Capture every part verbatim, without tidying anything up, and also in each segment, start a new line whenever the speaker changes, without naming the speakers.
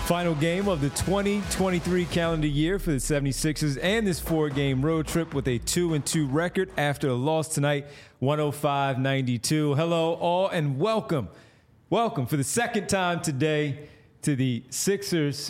Final game of the twenty twenty-three calendar year for the seventy-sixers and this four-game road trip with a two and two record after a loss tonight, one oh five ninety-two. Hello, all, and welcome. Welcome for the second time today to the Sixers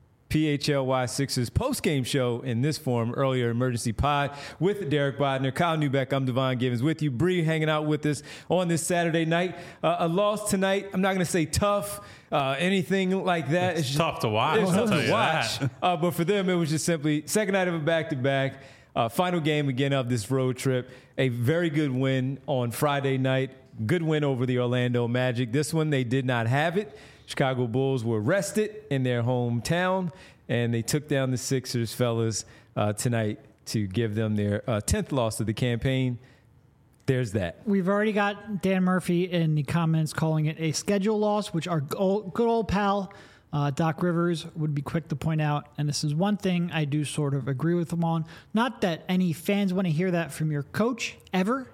P H L Y Sixers post-game show in this form, earlier emergency pod with Derek Bodner, Kyle Newbeck. I'm Devon Givens with you. Bree hanging out with us on this Saturday night. Uh, a loss tonight. I'm not going to say tough, uh, anything like that.
It's,
it's just,
tough to watch.
It's tough to
watch.
Uh, but for them, it was just simply second night of a back-to-back. Uh, final game again of this road trip. A very good win on Friday night. Good win over the Orlando Magic. This one, they did not have it. Chicago Bulls were rested in their hometown, and they took down the Sixers, fellas, uh, tonight to give them their uh, tenth loss of the campaign. There's that.
We've already got Dan Murphy in the comments calling it a schedule loss, which our good old pal uh, Doc Rivers would be quick to point out. And this is one thing I do sort of agree with him on. Not that any fans want to hear that from your coach ever,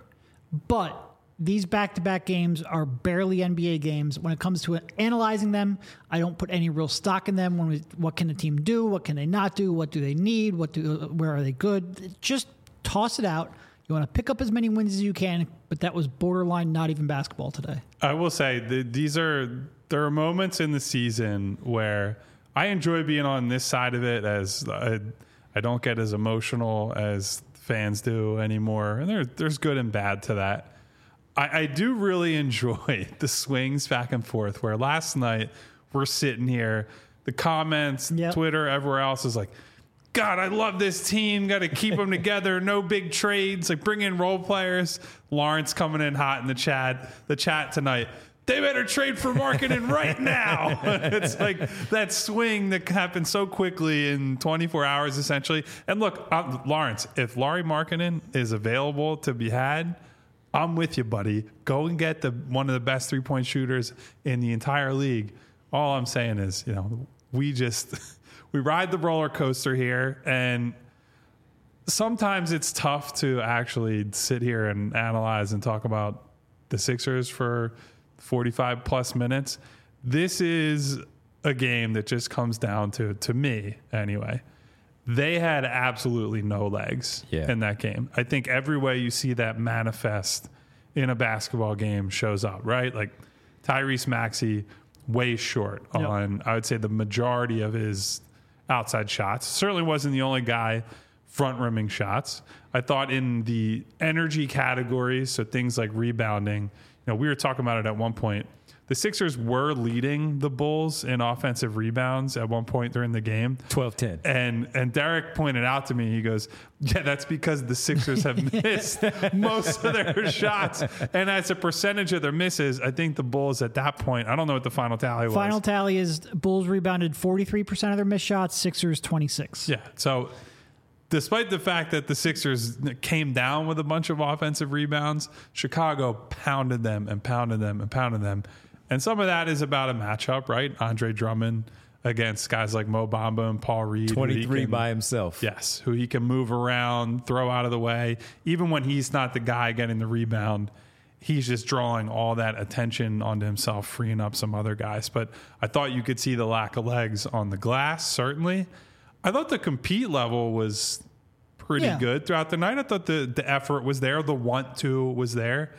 but these back-to-back games are barely N B A games. When it comes to analyzing them, I don't put any real stock in them. When we, what can the team do? What can they not do? What do they need? What do? Where are they good? Just toss it out. You want to pick up as many wins as you can, but that was borderline not even basketball today.
I will say the, these are there are moments in the season where I enjoy being on this side of it, as I, I don't get as emotional as fans do anymore. And there, there's good and bad to that. I, I do really enjoy the swings back and forth where last night we're sitting here, the comments, yep. Twitter, everywhere else is like, God, I love this team. Got to keep them together. No big trades. Like bring in role players. Lawrence coming in hot in the chat, the chat tonight. They better trade for Markkanen right now. It's like that swing that happened so quickly in twenty-four hours, essentially. And look, uh, Lawrence, if Lauri Markkanen is available to be had, I'm with you, buddy. Go and get the one of the best three-point shooters in the entire league. All I'm saying is, you know, we just we ride the roller coaster here, and sometimes it's tough to actually sit here and analyze and talk about the Sixers for forty-five plus minutes. This is a game that just comes down to, to me anyway, they had absolutely no legs yeah. in that game. I think every way you see that manifest in a basketball game shows up, right? Like Tyrese Maxey, way short yep. on, I would say, the majority of his outside shots. Certainly wasn't the only guy front rimming shots. I thought in the energy categories, so things like rebounding, you know, we were talking about it at one point. The Sixers were leading the Bulls in offensive rebounds at one point during the game.
twelve ten.
And and Derek pointed out to me, he goes, yeah, that's because the Sixers have missed most of their shots. And as a percentage of their misses, I think the Bulls at that point, I don't know what the final tally was.
Final tally is Bulls rebounded forty-three percent of their missed shots, Sixers twenty-six.
Yeah, so despite the fact that the Sixers came down with a bunch of offensive rebounds, Chicago pounded them and pounded them and pounded them. And some of that is about a matchup, right? Andre Drummond against guys like Mo Bamba and Paul Reed.
twenty-three
can,
by himself.
Yes, who he can move around, throw out of the way. Even when he's not the guy getting the rebound, he's just drawing all that attention onto himself, freeing up some other guys. But I thought you could see the lack of legs on the glass, certainly. I thought the compete level was pretty yeah. good throughout the night. I thought the, the effort was there. The want to was there.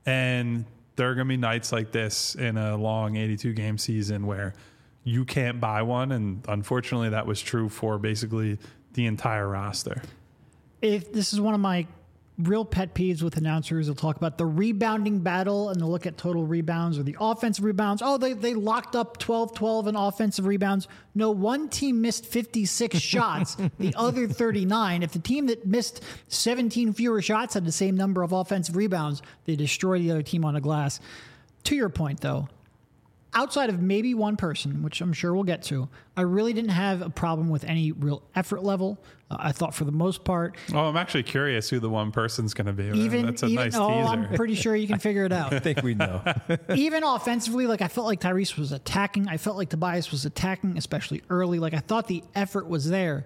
And there are going to be nights like this in a long eighty-two game season where you can't buy one. And unfortunately, that was true for basically the entire roster.
If this is one of my real pet peeves with announcers, they'll talk about the rebounding battle and they'll look at total rebounds or the offensive rebounds. Oh, they, they locked up twelve twelve in offensive rebounds. No, one team missed fifty-six shots, the other thirty-nine. If the team that missed seventeen fewer shots had the same number of offensive rebounds, they destroy the other team on the glass. To your point, though, outside of maybe one person, which I'm sure we'll get to, I really didn't have a problem with any real effort level. Uh, I thought for the most part.
Oh, I'm actually curious who the one person's going to be.
Even,
That's a
even,
nice
oh,
teaser.
I'm pretty sure you can figure it out.
I think we know.
Even offensively, like I felt like Tyrese was attacking. I felt like Tobias was attacking, especially early. Like I thought the effort was there.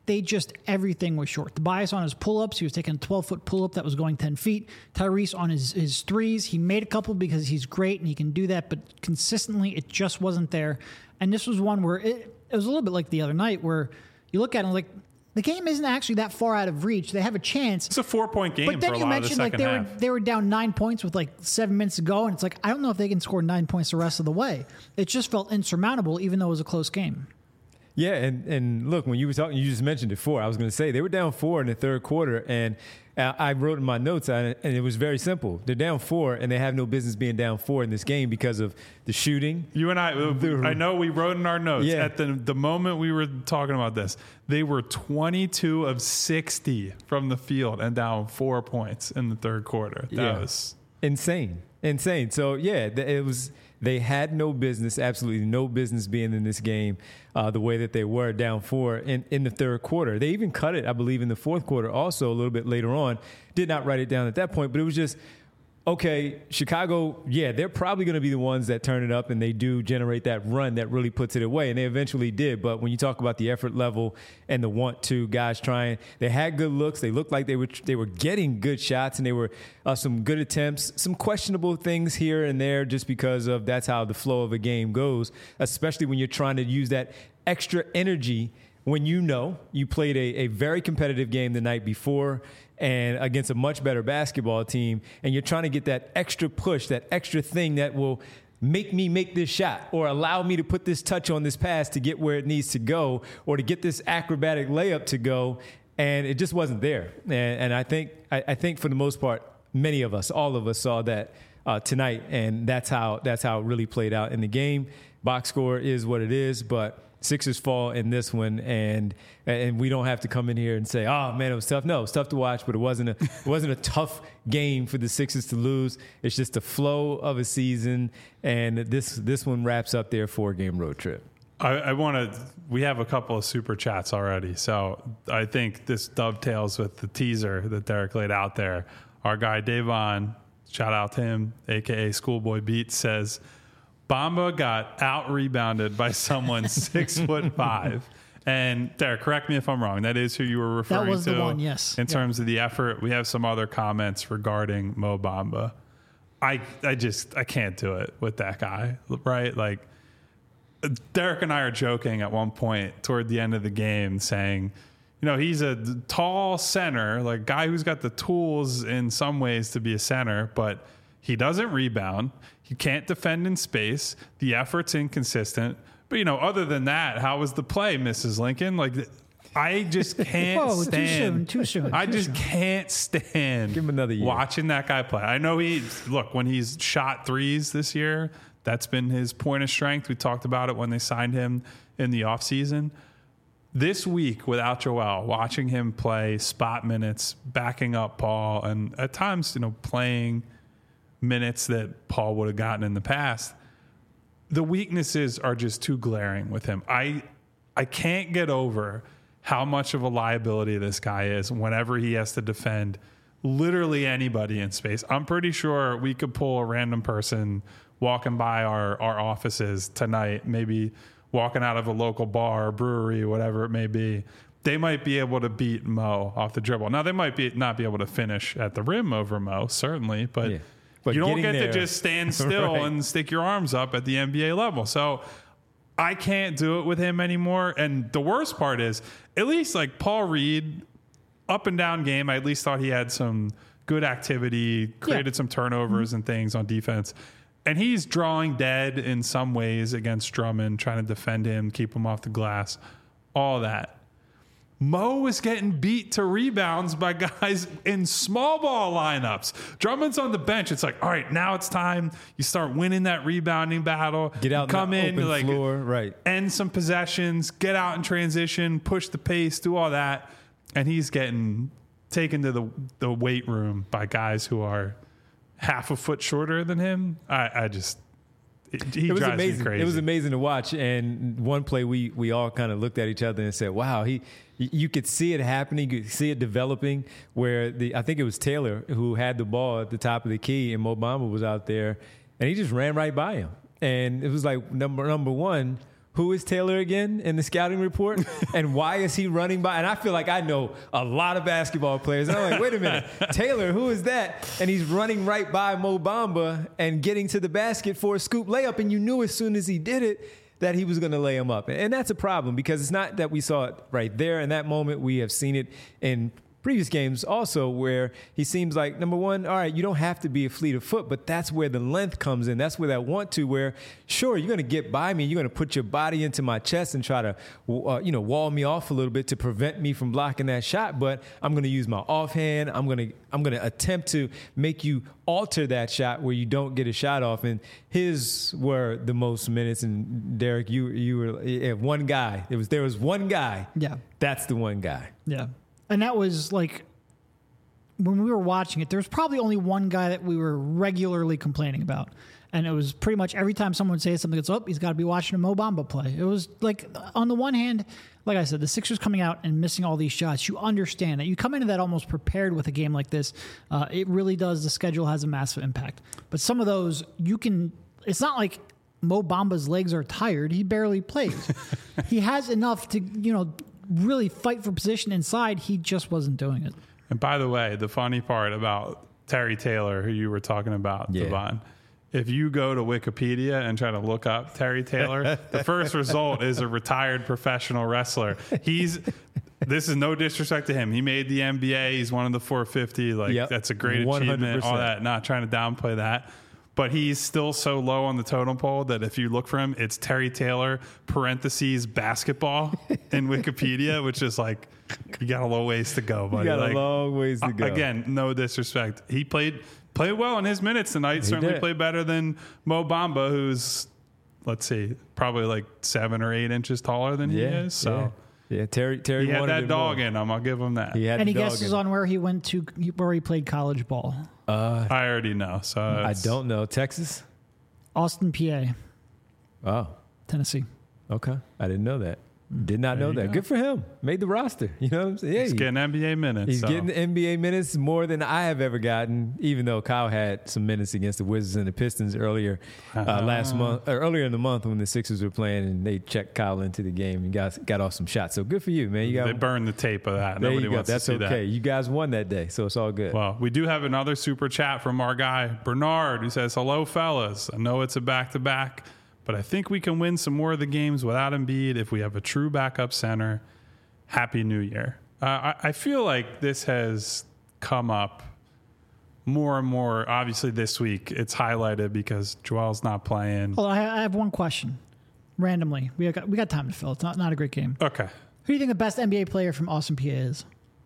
they just, everything was short. Tobias on his pull-ups, he was taking a twelve-foot pull-up that was going ten feet. Tyrese on his, his threes, he made a couple because he's great and he can do that, but consistently it just wasn't there. And this was one where it, it was a little bit like the other night where you look at it like, the game isn't actually that far out of reach. They have a chance.
It's a four-point game
but then
for a
you
lot of the
mentioned like
second
they
half.
were they were down nine points with like seven minutes to go, and it's like I don't know if they can score nine points the rest of the way. It just felt insurmountable, even though it was a close game.
Yeah, and, and look, when you were talking, you just mentioned it four. I was going to say they were down four in the third quarter, and I wrote in my notes, and it was very simple. They're down four, and they have no business being down four in this game because of the shooting.
You and I, I know we wrote in our notes
Yeah.
at the the moment we were talking about this, they were twenty-two of sixty from the field and down four points in the third quarter. That
Yeah.
was
Insane. Insane. So, yeah, th- it was. They had no business, absolutely no business being in this game uh, the way that they were down four in, in the third quarter. They even cut it, I believe, in the fourth quarter also a little bit later on. Did not write it down at that point, but it was just, okay, Chicago, yeah, they're probably going to be the ones that turn it up and they do generate that run that really puts it away, and they eventually did. But when you talk about the effort level and the want to, guys trying, they had good looks. They looked like they were they were getting good shots, and they were uh, some good attempts, some questionable things here and there just because of that's how the flow of a game goes, especially when you're trying to use that extra energy when you know you played a, a very competitive game the night before and against a much better basketball team, and you're trying to get that extra push, that extra thing that will make me make this shot or allow me to put this touch on this pass to get where it needs to go or to get this acrobatic layup to go, and it just wasn't there. And, and I think I, I think for the most part, many of us, all of us saw that uh, tonight, and that's how that's how it really played out in the game. Box score is what it is, but Sixers fall in this one, and and we don't have to come in here and say, "Oh man, it was tough." No, it was tough to watch, but it wasn't a it wasn't a tough game for the Sixers to lose. It's just the flow of a season, and this this one wraps up their four game road trip.
I, I want to. We have a couple of super chats already, so I think this dovetails with the teaser that Derek laid out there. Our guy Davon, shout out to him, aka Schoolboy Beats, says Bamba got out rebounded by someone six foot five. And Derek, correct me if I'm wrong. That is who you were referring to.
That was the one, yes.
In
Yeah.
terms of the effort, we have some other comments regarding Mo Bamba. I I just I can't do it with that guy, right? Like Derek and I are joking at one point toward the end of the game, saying, you know, he's a tall center, like guy who's got the tools in some ways to be a center, but he doesn't rebound. He can't defend in space. The effort's inconsistent. But, you know, other than that, how was the play, Missus Lincoln? Like, I just can't
Whoa, too
stand.
soon, too soon,
I
too
just
soon.
can't stand
Give him another year.
watching that guy play. I know he, look, when he's shot threes this year, that's been his point of strength. We talked about it when they signed him in the offseason. This week, without Joel, watching him play spot minutes, backing up Paul, and at times, you know, playing minutes that Paul would have gotten in the past, the weaknesses are just too glaring with him. I I can't get over how much of a liability this guy is whenever he has to defend literally anybody in space. I'm pretty sure we could pull a random person walking by our, our offices tonight, maybe walking out of a local bar or brewery, whatever it may be. They might be able to beat Mo off the dribble. Now, they might be not be able to finish at the rim over Mo, certainly, but...
Yeah. But
you don't
getting
get
there-
to just stand still
Right.
and stick your arms up at the N B A level. So I can't do it with him anymore. And the worst part is, at least like Paul Reed, up and down game, I at least thought he had some good activity, created
Yeah.
some turnovers and things on defense. And he's drawing dead in some ways against Drummond, trying to defend him, keep him off the glass, all that. Mo is getting beat to rebounds by guys in small ball lineups. Drummond's on the bench. It's like, all right, now it's time. You start winning that rebounding battle.
Get out
You come
in the
in,
open
like
floor, right?
end some possessions, get out in transition, push the pace, do all that. And he's getting taken to the, the weight room by guys who are half a foot shorter than him. I, I just... It, he
It was
drives
amazing.
me crazy.
It was amazing to watch. And one play, we we all kind of looked at each other and said, "Wow, he." You could see it happening. You could see it developing. Where the I think it was Taylor who had the ball at the top of the key, and Mo Bamba was out there, and he just ran right by him. And it was like number number one. who is Taylor again in the scouting report? And why is he running by? And I feel like I know a lot of basketball players. And I'm like, wait a minute, Taylor, who is that? And he's running right by Mo Bamba and getting to the basket for a scoop layup. And you knew as soon as he did it that he was going to lay him up. And that's a problem because it's not that we saw it right there in that moment. We have seen it in previous games also where he seems like, number one, all right, you don't have to be a fleet of foot, but that's where the length comes in. That's where that want to, where, sure, you're going to get by me. You're going to put your body into my chest and try to, uh, you know, wall me off a little bit to prevent me from blocking that shot. But I'm going to use my offhand. I'm going to I'm going to attempt to make you alter that shot where you don't get a shot off. And his were the most minutes. And Derek, you you were yeah, one guy. It was there was one guy.
Yeah,
that's the one guy.
Yeah. And that was like, when we were watching it, there was probably only one guy that we were regularly complaining about. And it was pretty much every time someone would say something, it's, oh, he's got to be watching a Mo Bamba play. It was like, on the one hand, like I said, the Sixers coming out and missing all these shots, you understand that. You come into that almost prepared with a game like this. Uh, it really does. The schedule has a massive impact. But some of those, you can, it's not like Mo Bamba's legs are tired. He barely plays. He has enough to, you know, really fight for position inside. He just wasn't doing it.
And by the way, the funny part about Terry Taylor, who you were talking about,
yeah.
Devon, if you go to Wikipedia and try to look up Terry Taylor, the first result is a retired professional wrestler. He's this is no disrespect to him. He made the N B A. He's one of the four fifty. Like yep. That's a great one hundred percent achievement. All that. Not trying to downplay that. But he's still so low on the totem pole that if you look for him, it's Terry Taylor, parentheses, basketball in Wikipedia, which is like, you got a long ways to go, buddy.
You got
like,
a long ways to go.
Again, no disrespect. He played played well in his minutes tonight. He Certainly did. Played better than Mo Bamba, who's, let's see, probably like seven or eight inches taller than
yeah,
he is. So.
Yeah. Yeah, Terry. Terry
he had
wanted
that dog
more.
in him. I'll give him that.
He had
Any
dog
guesses
in
on where he went to, where he played college ball?
Uh,
I already know. So
I don't know. Texas,
Austin, P A.
Oh,
Tennessee.
Okay, I didn't know that. Did not
There
know that.
go.
Good for him. Made the roster. You know what I'm saying? Yeah,
he's getting N B A minutes.
He's
so.
getting the N B A minutes more than I have ever gotten, even though Kyle had some minutes against the Wizards and the Pistons earlier uh, uh, last month, or earlier in the month when the Sixers were playing and they checked Kyle into the game and got got off some shots. So good for you, man. You got
they burned the tape of that.
There
Nobody
you go.
wants
That's
to see
okay.
that.
You guys won that day, so it's all good.
Well, we do have another super chat from our guy Bernard, who says, "Hello, fellas. I know it's a back-to-back, but I think we can win some more of the games without Embiid if we have a true backup center. Happy New Year." Uh, I, I feel like this has come up more and more. Obviously, this week it's highlighted because Joel's not playing.
Well, I I have one question. Randomly, we got we got time to fill. It's not not a great game.
Okay.
Who do you think the best N B A player from Austin, P A is?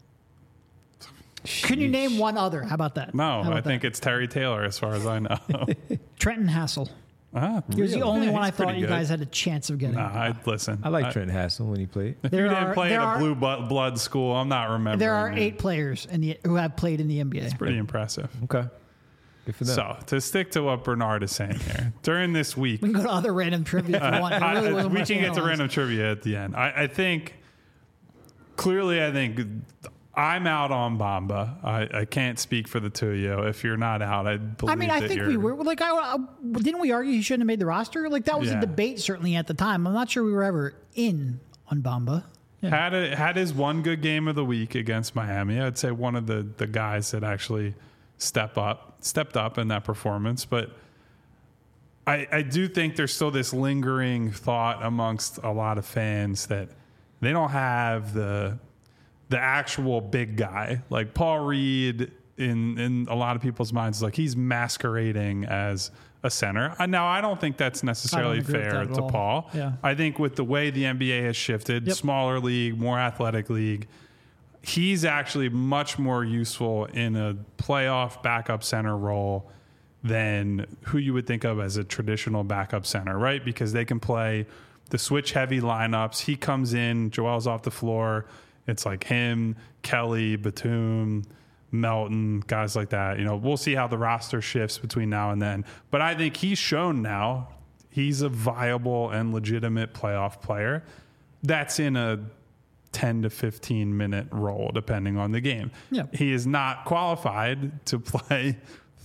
Can you name one other? How about that?
No,
about
I think
that?
it's Terry Taylor, as far as I know.
Trenton Hassel.
Ah,
He was the
really?
only
Yeah,
one I
he's pretty
thought you
good.
guys had a chance of getting.
Nah, I listen.
I like
I,
Trent Hassel when he played.
If
There
you didn't
are-
play
there
at
are-
a blue bu- blood school, I'm not remembering.
There are
it.
eight players in the who have played in the N B A.
Pretty impressive.
Okay. Good for them.
So, to stick to what Bernard is saying here, during this week,
We can go to other random trivia if you want. It really
I-
wasn't
we
worth
can get to
analyzing.
random trivia at the end. I, I think, clearly, I think I'm out on Bamba. I, I can't speak for the two of you. If you're not out, I believe
I mean, I
that
think
you're,
we were like, I, I- didn't we argue he shouldn't have made the roster? Like that was
Yeah.
a debate certainly at the time. I'm not sure we were ever in on Bamba.
Had a, had his one good game of the week against Miami. I'd say one of the, the guys that actually step up, stepped up in that performance. But I, I do think there's still this lingering thought amongst a lot of fans that they don't have the the actual big guy. Like Paul Reed, in in a lot of people's minds, like he's masquerading as a center. Uh, Now, I don't think that's necessarily
agree with
fair
that at
to
all.
Paul.
Yeah.
I think with the way the N B A has shifted,
Yep.
smaller league, more athletic league, he's actually much more useful in a playoff backup center role than who you would think of as a traditional backup center, right? Because they can play the switch heavy lineups. He comes in, Joel's off the floor. It's like him, Kelly, Batum, Melton, guys like that. You know, we'll see how the roster shifts between now and then. But I think he's shown now he's a viable and legitimate playoff player that's in a ten to fifteen minute role, depending on the game.
Yeah.
He is not qualified to play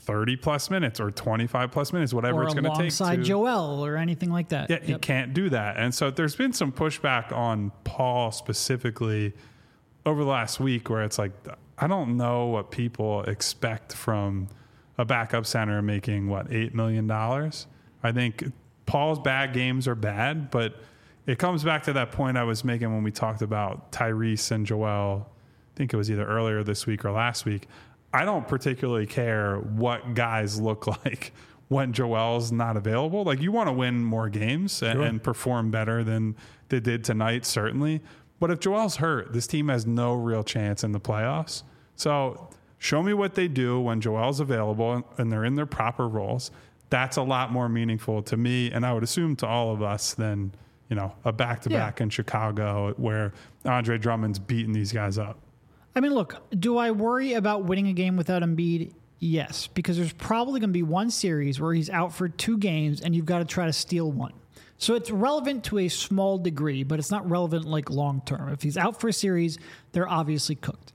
thirty plus minutes or twenty-five plus minutes, whatever
or
it's going to take.
Alongside Joel or anything like that.
Yeah,
yep.
he can't do that. And so there's been some pushback on Paul specifically over the last week where it's like, I don't know what people expect from a backup center making, what, eight million dollars? I think Paul's bad games are bad, but it comes back to that point I was making when we talked about Tyrese and Joel. I think it was either earlier this week or last week. I don't particularly care what guys look like when Joel's not available. Like, you want to win more games and,
Sure.
and perform better than they did tonight, certainly. But if Joel's hurt, this team has no real chance in the playoffs. So show me what they do when Joel's available and they're in their proper roles. That's a lot more meaningful to me, and I would assume to all of us, than, you know, a back-to-back
Yeah.
in Chicago where Andre Drummond's beating these guys up.
I mean, look, do I worry about winning a game without Embiid? Yes, because there's probably going to be one series where he's out for two games and you've got to try to steal one. So it's relevant to a small degree, but it's not relevant like long term. If he's out for a series, they're obviously cooked.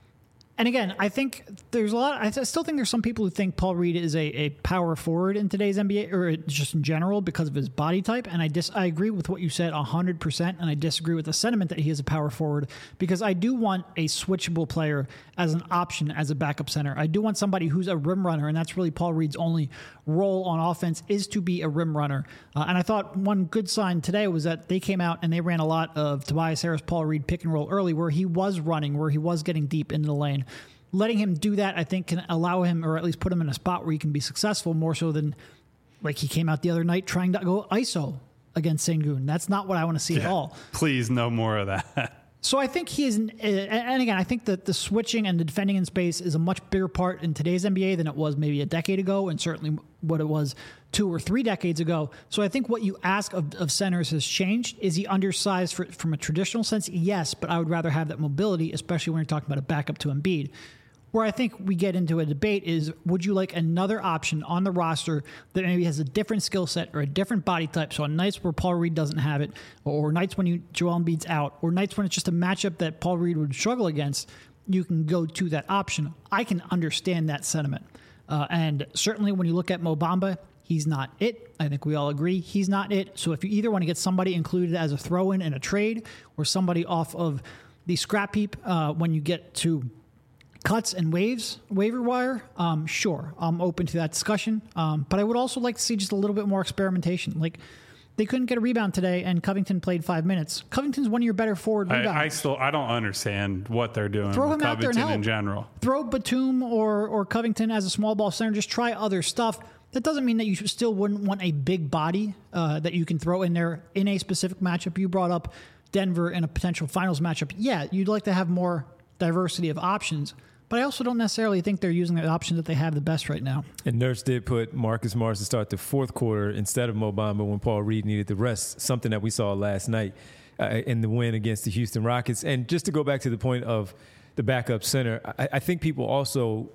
And again, I think there's a lot. I still think there's some people who think Paul Reed is a, a power forward in today's N B A, or just in general because of his body type. And I dis I agree with what you said one hundred percent, and I disagree with the sentiment that he is a power forward, because I do want a switchable player as an option as a backup center. I do want somebody who's a rim runner, and that's really Paul Reed's only role on offense, is to be a rim runner. Uh, and I thought one good sign today was that they came out and they ran a lot of Tobias Harris, Paul Reed pick and roll early, where he was running, where he was getting deep into the lane. Letting him do that, I think, can allow him, or at least put him in a spot where he can be successful more so than like he came out the other night trying to go I S O against Sengun. That's not what I want to see
Yeah.
at all.
Please, no more of that.
So I think he is, and again, I think that the switching and the defending in space is a much bigger part in today's N B A than it was maybe a decade ago, and certainly what it was two or three decades ago. So I think what you ask of, of centers has changed. Is he undersized for, from a traditional sense? Yes, but I would rather have that mobility, especially when you're talking about a backup to Embiid. Where I think we get into a debate is, would you like another option on the roster that maybe has a different skill set or a different body type? So on nights where Paul Reed doesn't have it, or nights when you Joel Embiid's out, or nights when it's just a matchup that Paul Reed would struggle against, you can go to that option. I can understand that sentiment. Uh, and certainly when you look at Mo Bamba, he's not it. I think we all agree he's not it. So if you either want to get somebody included as a throw-in in a trade, or somebody off of the scrap heap uh, when you get to cuts and waves, waiver wire, um, sure, I'm open to that discussion. Um, but I would also like to see just a little bit more experimentation. Like, they couldn't get a rebound today, and Covington played five minutes. Covington's one of your better forward rebounders.
I, I still I don't understand what they're doing
Throw
with
him out there and
Covington
help.
in general.
Throw Batum or or Covington as a small ball center. Just try other stuff. That doesn't mean that you still wouldn't want a big body uh, that you can throw in there in a specific matchup. You brought up Denver in a potential finals matchup. Yeah, you'd like to have more diversity of options. But I also don't necessarily think they're using the option that they have the best right now.
And Nurse did put Marcus Morris to start the fourth quarter instead of Mo Bamba when Paul Reed needed the rest, something that we saw last night uh, in the win against the Houston Rockets. And just to go back to the point of the backup center, I, I think people also,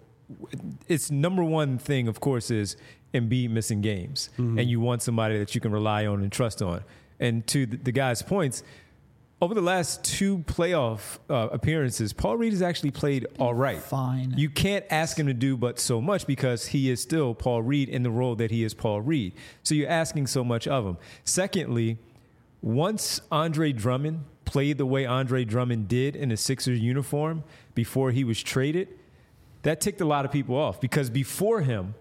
its number one thing, of course, is Embiid missing games. Mm-hmm. And you want somebody that you can rely on and trust on. And to the, the guy's points, over the last two playoff uh, appearances, Paul Reed has actually played all right.
Fine.
You can't ask him to do but so much because he is still Paul Reed in the role that he is Paul Reed. So you're asking so much of him. Secondly, once Andre Drummond played the way Andre Drummond did in a Sixers uniform before he was traded, that ticked a lot of people off because before him,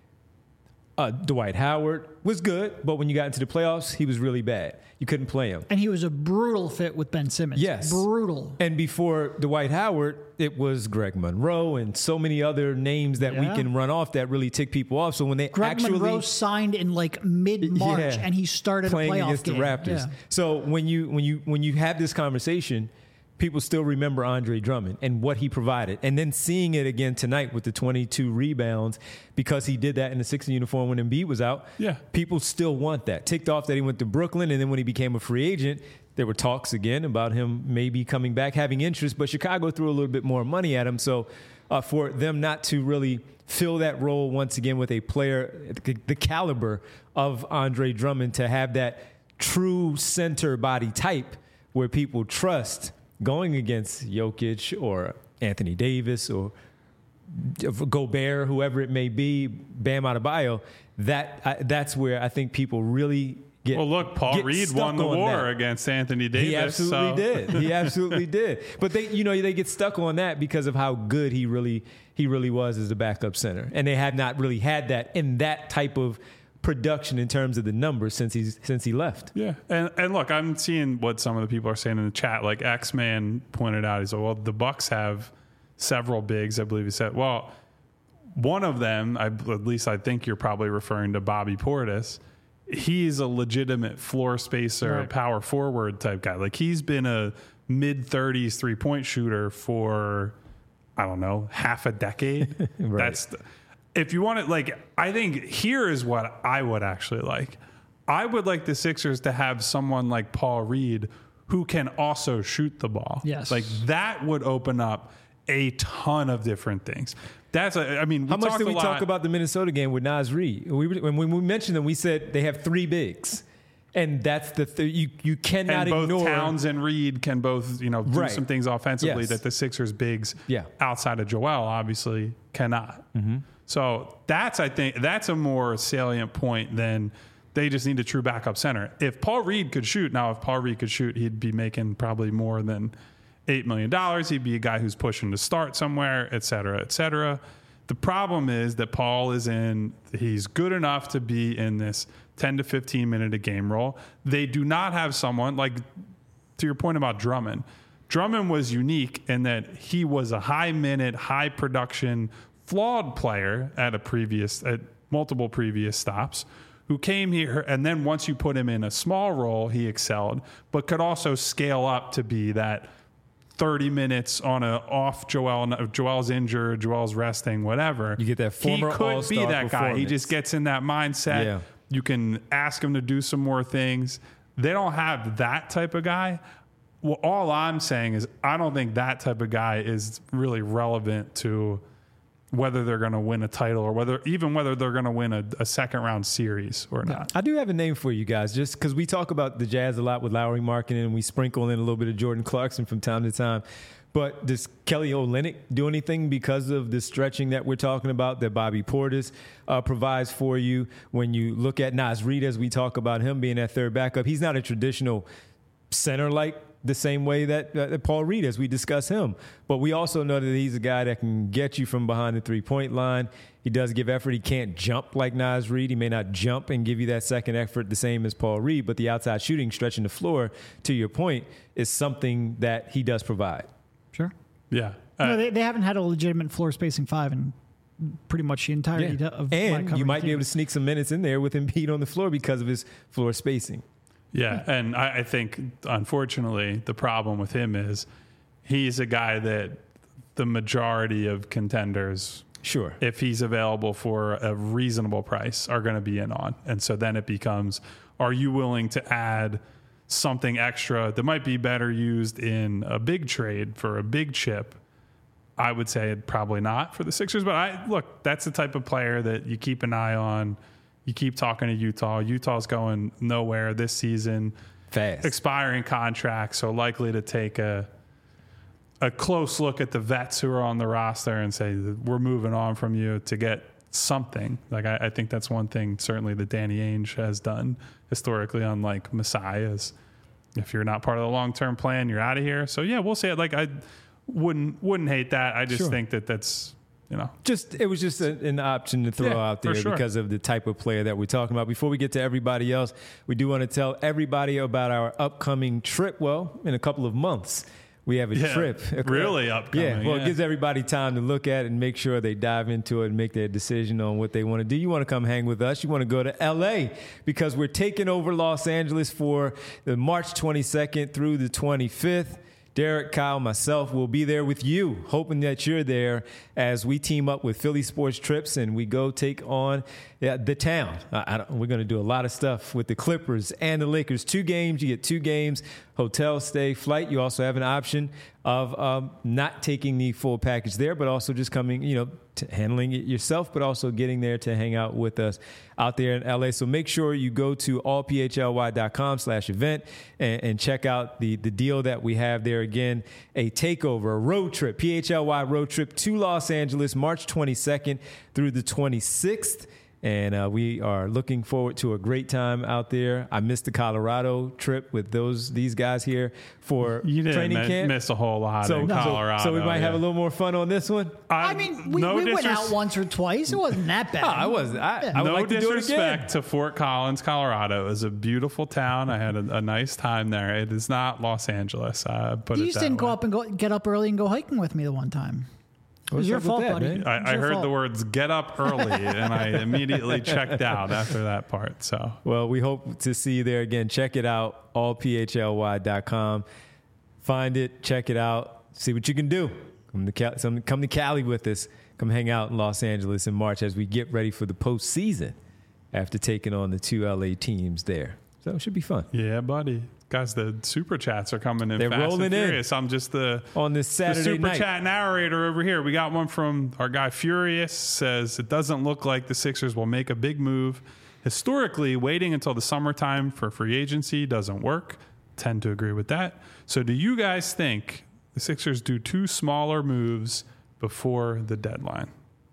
Uh, Dwight Howard was good, but when you got into the playoffs, he was really bad. You couldn't play him.
And he was a brutal fit with Ben Simmons.
Yes.
Brutal.
And before Dwight Howard, it was Greg Monroe and so many other names that
Yeah.
we can run off that really tick people off. So when they
Greg
actually
Monroe signed in like mid-March,
Yeah.
and he started
playing
a playoff
against
game.
the Raptors.
Yeah.
So when you when you when you have this conversation, people still remember Andre Drummond and what he provided. And then seeing it again tonight with the twenty-two rebounds because he did that in the Sixers uniform when Embiid was out.
Yeah.
People still want that. Ticked off that he went to Brooklyn, and then when he became a free agent, there were talks again about him maybe coming back, having interest, but Chicago threw a little bit more money at him. So uh, for them not to really fill that role once again with a player, the, the caliber of Andre Drummond, to have that true center body type where people trust going against Jokic or Anthony Davis or Gobert, whoever it may be, Bam Adebayo, that uh, that's where I think people really get.
Well, look, Paul Reed won the war
that.
against Anthony Davis.
He absolutely
so.
did. He absolutely did. But they, you know, they get stuck on that because of how good he really he really was as a backup center, and they have not really had that in that type of production in terms of the numbers since he's since he left.
Yeah, and and look, I'm seeing what some of the people are saying in the chat. Like X-Man pointed out, he said, "Well, the Bucks have several bigs." I believe he said, "Well, one of them, I, at least I think you're probably referring to Bobby Portis. He's a legitimate floor spacer,
right.
power forward type guy. Like he's been a mid thirties three point shooter for I don't know half a decade.
Right.
That's." The, If you want it, like, I think here is what I would actually like. I would like the Sixers to have someone like Paul Reed who can also shoot the ball.
Yes.
Like, that would open up a ton of different things. That's, a, I mean, we
How much did we
lot,
talk about the Minnesota game with Naz Reid? We, when we mentioned them, we said they have three bigs. And that's the th- you you cannot
and both
ignore.
Towns and Reed can both, you know, do
Right.
some things offensively
Yes.
that the Sixers bigs
Yeah.
outside of Joel obviously cannot. Mm-hmm. So that's, I think, that's a more salient point than they just need a true backup center. If Paul Reed could shoot, now if Paul Reed could shoot, he'd be making probably more than eight million dollars. He'd be a guy who's pushing to start somewhere, et cetera, et cetera. The problem is that Paul is in, he's good enough to be in this ten to fifteen minute a game role. They do not have someone like, to your point about Drummond. Drummond was unique in that he was a high minute, high production, flawed player at a previous, at multiple previous stops, who came here, and then once you put him in a small role, he excelled, but could also scale up to be that thirty minutes on a off Joel. Joel's injured, Joel's resting, whatever.
You get that former
He could
all-star
be that guy. He
performance.
just gets in that mindset.
Yeah.
You can ask him to do some more things. They don't have that type of guy. Well, all I'm saying is I don't think that type of guy is really relevant to whether they're going to win a title or whether even whether they're going to win a, a second round series or not.
I do have a name for you guys, just because we talk about the Jazz a lot with Lowry Markkanen, and we sprinkle in a little bit of Jordan Clarkson from time to time. But does Kelly Olynyk do anything because of the stretching that we're talking about that Bobby Portis uh, provides for you? When you look at Naz Reid, as we talk about him being that third backup, he's not a traditional center like the same way that, uh, that Paul Reed, as we discuss him. But we also know that he's a guy that can get you from behind the three-point line. He does give effort. He can't jump like Naz Reid. He may not jump and give you that second effort the same as Paul Reed, but the outside shooting, stretching the floor, to your point, is something that he does provide.
Sure.
Yeah.
No,
Uh,
they, they haven't had a legitimate floor spacing five in pretty much the entirety
Yeah.
of my
And you
covering
might be
team.
able to sneak some minutes in there with Embiid on the floor because of his floor spacing.
Yeah, and I, I think, unfortunately, the problem with him is he's a guy that the majority of contenders,
Sure.
if he's available for a reasonable price, are going to be in on. And so then it becomes, are you willing to add something extra that might be better used in a big trade for a big chip? I would say probably not for the Sixers. But I look, that's the type of player that you keep an eye on. You keep talking to Utah. Utah's going nowhere this season.
Fast.
Expiring contract, so likely to take a a close look at the vets who are on the roster and say, we're moving on from you to get something. Like I, I think that's one thing certainly that Danny Ainge has done historically, unlike Masai, is if you're not part of the long-term plan, you're out of here. So yeah, we'll say it. Like I wouldn't wouldn't hate that. I just
Sure.
think that that's, you know,
Just it was just a, an option to throw
Yeah,
out there
for sure.
because of the type of player that we're talking about. Before we get to everybody else, we do want to tell everybody about our upcoming trip. Well, in a couple of months, we have a
Yeah,
trip.
really upcoming,
Yeah, well,
yeah.
it gives everybody time to look at it and make sure they dive into it and make their decision on what they want to do. You want to come hang with us. You want to go to L A because we're taking over Los Angeles for the March twenty-second through the twenty-fifth. Derek, Kyle, myself will be there with you, hoping that you're there as we team up with Philly Sports Trips and we go take on yeah, the town. I, I don't, we're going to do a lot of stuff with the Clippers and the Lakers. Two games, you get two games, hotel stay, flight. You also have an option of um, not taking the full package there, but also just coming, you know, to handling it yourself, but also getting there to hang out with us out there in L A. So make sure you go to all p h l y dot com slash event and, and check out the, the deal that we have there. Again, a takeover, a road trip, P H L Y road trip to Los Angeles, March twenty-second through the twenty-sixth. And uh, we are looking forward to a great time out there. I missed the Colorado trip with those these guys here for
you didn't
training
mi-
camp.
miss a whole lot
so,
in
so,
Colorado.
So we might
yeah.
have a little more fun on this one.
I mean, we,
no
we went
disres-
out once or twice. It wasn't that bad.
I was. I,
Yeah.
I would
no
like to do it again.
disrespect to Fort Collins, Colorado. It was a beautiful town. I had a, a nice time there. It is not Los Angeles. Uh, put
You
it
just
that
didn't go
way.
up and go get up early and go hiking with me the one time. It was
What's
your
up with
fault,
that,
buddy.
man?
It was
I, I
your
heard
fault.
the words "get up early" and I immediately checked out after that part. So,
Well, we hope to see you there again. Check it out, all p h l y dot com. Find it, check it out, see what you can do. Come to Cali, some, come to Cali with us. Come hang out in Los Angeles in March as we get ready for the postseason after taking on the two L A teams there. So it should be fun.
yeah, buddy. Guys, the super chats are coming in
They're
fast
rolling
and
in.
furious. I'm just the
On this
the
Saturday
super
night.
chat narrator over here. We got one from our guy Furious. Says it doesn't look like the Sixers will make a big move. Historically, waiting until the summertime for free agency doesn't work. Tend to agree with that. So do you guys think the Sixers do two smaller moves before the deadline?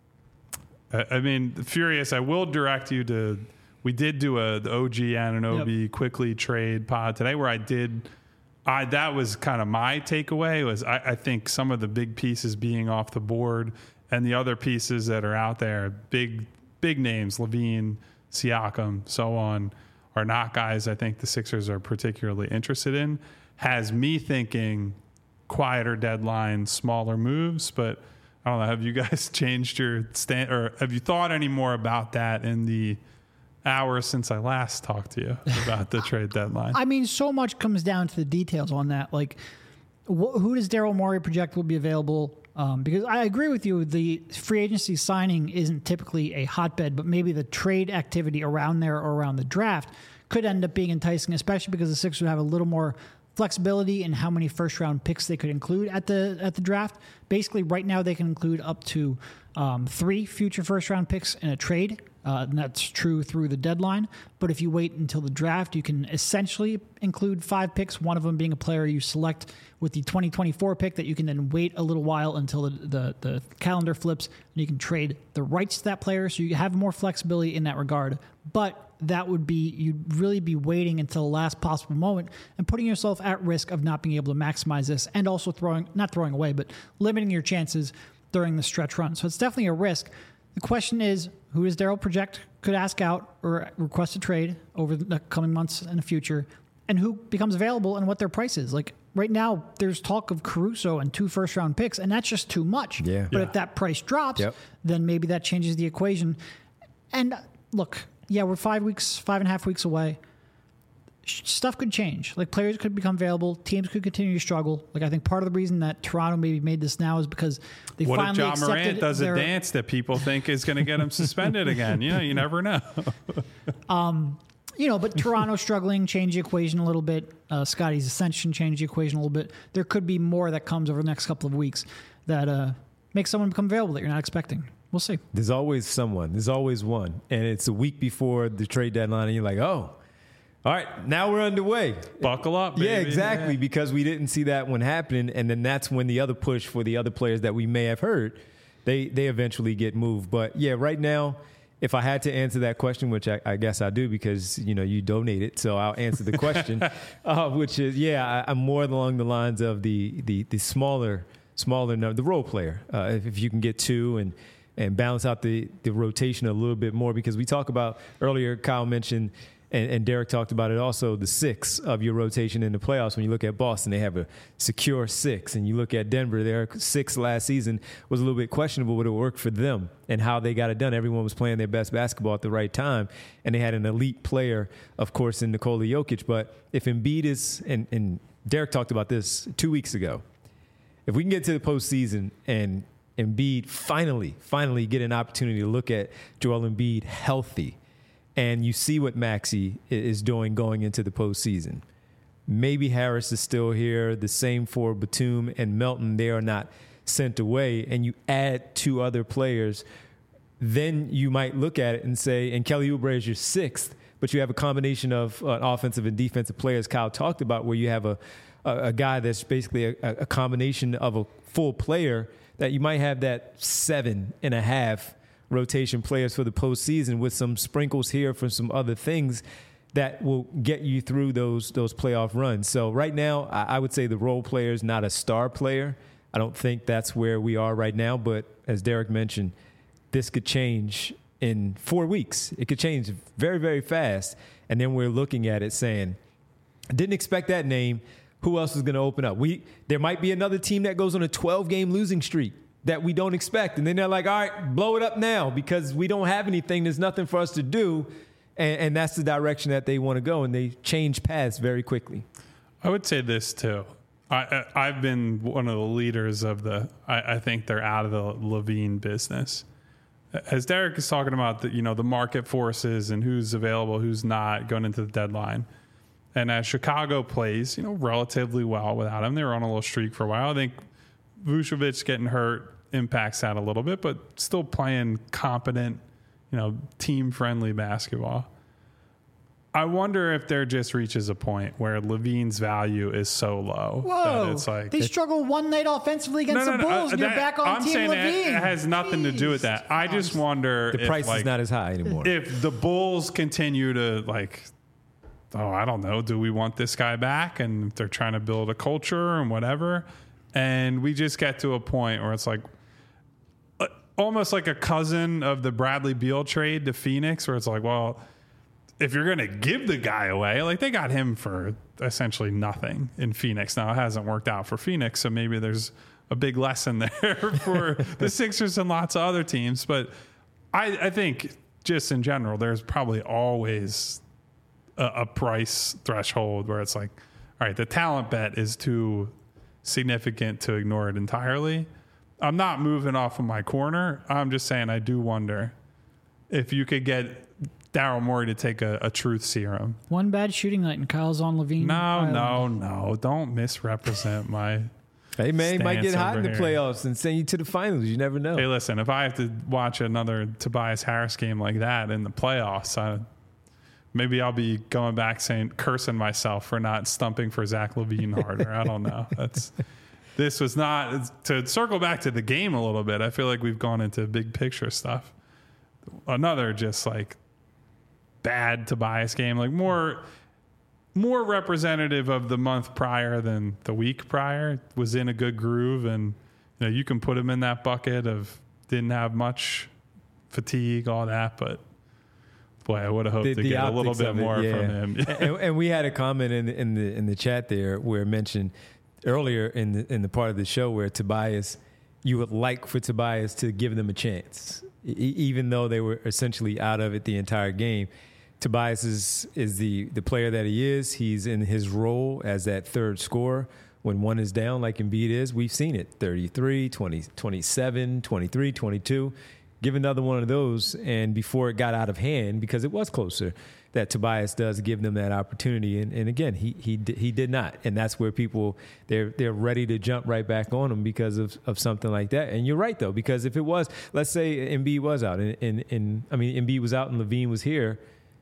I, I mean, Furious, I will direct you to, we did do a the O G Anunoby
Yep.
quickly trade pod today where I did, I that was kind of my takeaway was I, I think some of the big pieces being off the board and the other pieces that are out there, big, big names, Levine, Siakam, so on, are not guys I think the Sixers are particularly interested in. Has me thinking quieter deadline, smaller moves, but I don't know. Have you guys changed your stand, or have you thought any more about that in the hours since I last talked to you about the trade deadline?
I mean, so much comes down to the details on that. Like, wh- who does Daryl Morey project will be available? Um, because I agree with you, the free agency signing isn't typically a hotbed, but maybe the trade activity around there or around the draft could end up being enticing, especially because the Sixers would have a little more flexibility in how many first round picks they could include at the at the draft. Basically, right now they can include up to um, three future first round picks in a trade. Uh, and that's true through the deadline. But if you wait until the draft, you can essentially include five picks, one of them being a player you select with the twenty twenty-four pick that you can then wait a little while until the, the, the calendar flips, and you can trade the rights to that player. So you have more flexibility in that regard. But that would be, you'd really be waiting until the last possible moment and putting yourself at risk of not being able to maximize this, and also throwing, not throwing away, but limiting your chances during the stretch run. So it's definitely a risk. The question is, who does Daryl project could ask out or request a trade over the coming months in the future, and who becomes available and what their price is? Like right now, there's talk of Caruso and two first round picks, and that's just too much.
Yeah.
But
Yeah.
if that price drops,
Yep.
then maybe that changes the equation. And uh, look, yeah, we're five weeks, five and a half weeks away. Sh- Stuff could change. Like players could become available. Teams could continue to struggle. Like I think part of the reason that Toronto maybe made this now is because they
What if
finally
John
accepted
Morant does
their,
a dance that people think is going to get him suspended again? You know, you never know.
You know, but Toronto struggling, change the equation a little bit. Uh, Scotty's ascension changed the equation a little bit. There could be more that comes over the next couple of weeks that uh, makes someone become available that you're not expecting. We'll see.
There's always someone. There's always one. And it's a week before the trade deadline, and you're like, oh, all right, now we're underway.
Buckle up, baby.
Yeah, exactly, because we didn't see that one happening. And then that's when the other push for the other players that we may have heard, they, they eventually get moved. But, yeah, right now, if I had to answer that question, which I, I guess I do because, you know, you donated, so I'll answer the question, uh, which is, yeah, I, I'm more along the lines of the the, the smaller, smaller number, the role player. Uh, if, if you can get two and and balance out the, the rotation a little bit more, because we talk about earlier, Kyle mentioned, and, and Derek talked about it also, the six of your rotation in the playoffs. When you look at Boston, they have a secure six. And you look at Denver, their six last season was a little bit questionable, but it worked for them and how they got it done. Everyone was playing their best basketball at the right time. And they had an elite player, of course, in Nikola Jokic. But if Embiid is, and, and Derek talked about this two weeks ago, if we can get to the postseason and Embiid finally, finally get an opportunity to look at Joel Embiid healthy, and you see what Maxey is doing going into the postseason. Maybe Harris is still here. The same for Batum and Melton. They are not sent away and you add two other players, then you might look at it and say, and Kelly Oubre is your sixth, but you have a combination of uh, offensive and defensive players Kyle talked about, where you have a, a, a guy that's basically a, a combination of a full player, that you might have that seven and a half rotation players for the postseason with some sprinkles here for some other things that will get you through those those playoff runs. So right now, I, I would say the role player is not a star player. I don't think that's where we are right now. But as Derek mentioned, this could change in four weeks. It could change very, very fast. And then we're looking at it saying, didn't expect that name. Who else is going to open up? We There might be another team that goes on a twelve-game losing streak that we don't expect. And then they're like, all right, blow it up now because we don't have anything. There's nothing for us to do. And, and that's the direction that they want to go. And they change paths very quickly.
I would say this, too. I, I, I've been one of the leaders of the, I, I think they're out of the LaVine business. As Derek is talking about the, you know, the market forces and who's available, who's not going into the deadline. And as Chicago plays, you know, relatively well without him, they were on a little streak for a while. I think Vucevic getting hurt impacts that a little bit, but still playing competent, you know, team-friendly basketball. I wonder if there just reaches a point where LaVine's value is so low
Whoa,
that it's like
they struggled one night offensively against
no, no,
the
no,
Bulls,
uh,
and you're
that,
back on
I'm
Team
saying
LaVine.
It has nothing
Jeez.
to do with that. I just wonder
The
if,
price
like,
is not as high anymore.
If the Bulls continue to, like, oh, I don't know, do we want this guy back? And they're trying to build a culture and whatever. And we just get to a point where it's like uh, almost like a cousin of the Bradley Beal trade to Phoenix, where it's like, well, if you're going to give the guy away, like they got him for essentially nothing in Phoenix. Now it hasn't worked out for Phoenix, so maybe there's a big lesson there for the Sixers and lots of other teams. But I, I think just in general, there's probably always a, a price threshold where it's like, all right, the talent bet is too significant to ignore it entirely. I'm not moving off of my corner. I'm just saying I do wonder if you could get Daryl Morey to take a, a truth serum.
One bad shooting night and Kyle's on LaVine.
No,
Island.
no, no. Don't misrepresent my
Hey, man, he might get
stance
hot in the
over here.
playoffs and send you to the finals. You never know.
Hey, listen, if I have to watch another Tobias Harris game like that in the playoffs, I, maybe I'll be going back saying, cursing myself for not stumping for Zach LaVine harder. I don't know. That's This was not, to circle back to the game a little bit, I feel like we've gone into big picture stuff. Another just like bad Tobias game, like more more representative of the month prior than the week prior. Was in a good groove, and you know you can put him in that bucket of didn't have much fatigue, all that, but boy, I would have hoped
The-
to
the
get a little
optics
bit
of it,
more
yeah.
from him.
and, and we had a comment in, in the in the chat there where it mentioned earlier in the in the part of the show where Tobias, you would like for Tobias to give them a chance, e- even though they were essentially out of it the entire game. Tobias is, is the, the player that he is. He's in his role as that third scorer. When one is down, like Embiid is, we've seen it. thirty-three, twenty, twenty-seven, twenty-three, twenty-two. Give another one of those, and before it got out of hand, because it was closer, that Tobias does give them that opportunity. And, and again, he he he did not. And that's where people, they're they're ready to jump right back on him because of, of something like that. And you're right, though, because if it was, let's say Embiid was out, and, and, and I mean, Embiid was out and LaVine was here,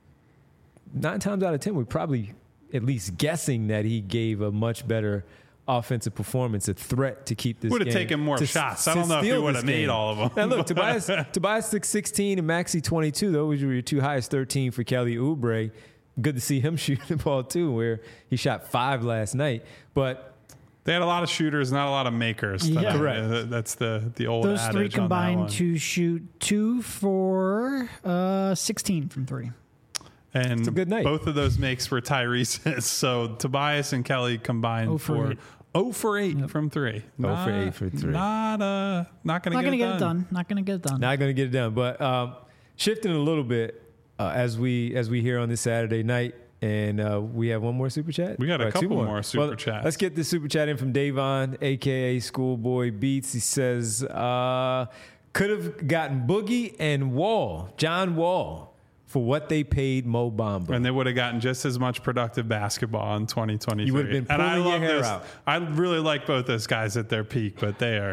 nine times out of ten, we're probably at least guessing that he gave a much better offensive performance, a threat to keep this
Would have
game-
taken more
to-
shots. I
to
don't know if he
steal
would
this
have made
game.
all of them.
Now look, Tobias Tobias took sixteen and Maxey twenty-two. Those were your two highest. thirteen for Kelly Oubre. Good to see him shoot the ball too, where he shot five last night. But
They had a lot of shooters, not a lot of makers.
Yeah.
tonight.
Correct.
Uh, That's the the old
Those
adage
three
on that
combined
one.
to shoot two for uh, sixteen from three.
And
a good night.
both of those makes were Tyrese's. So Tobias and Kelly combined
Oh for
for
eight.
oh for eight from three.
Oh for eight for three.
Not uh, not gonna
Not
get,
going to
it,
get
done.
it done. Not going to get it done.
not going to get it done. But um, shifting a little bit uh, as we as we hear on this Saturday night, and uh, we have one more super chat.
We got a
Or two
couple more super
Well,
chats.
Let's get the super chat in from Davon, aka Schoolboy Beats. He says, uh, "Could have gotten Boogie and Wall, John Wall, for what they paid Mo Bamba."
And they would have gotten just as much productive basketball in twenty twenty-three.
You would have been
and I
pulling your
love
hair
this.
out.
I really like both those guys at their peak, but they are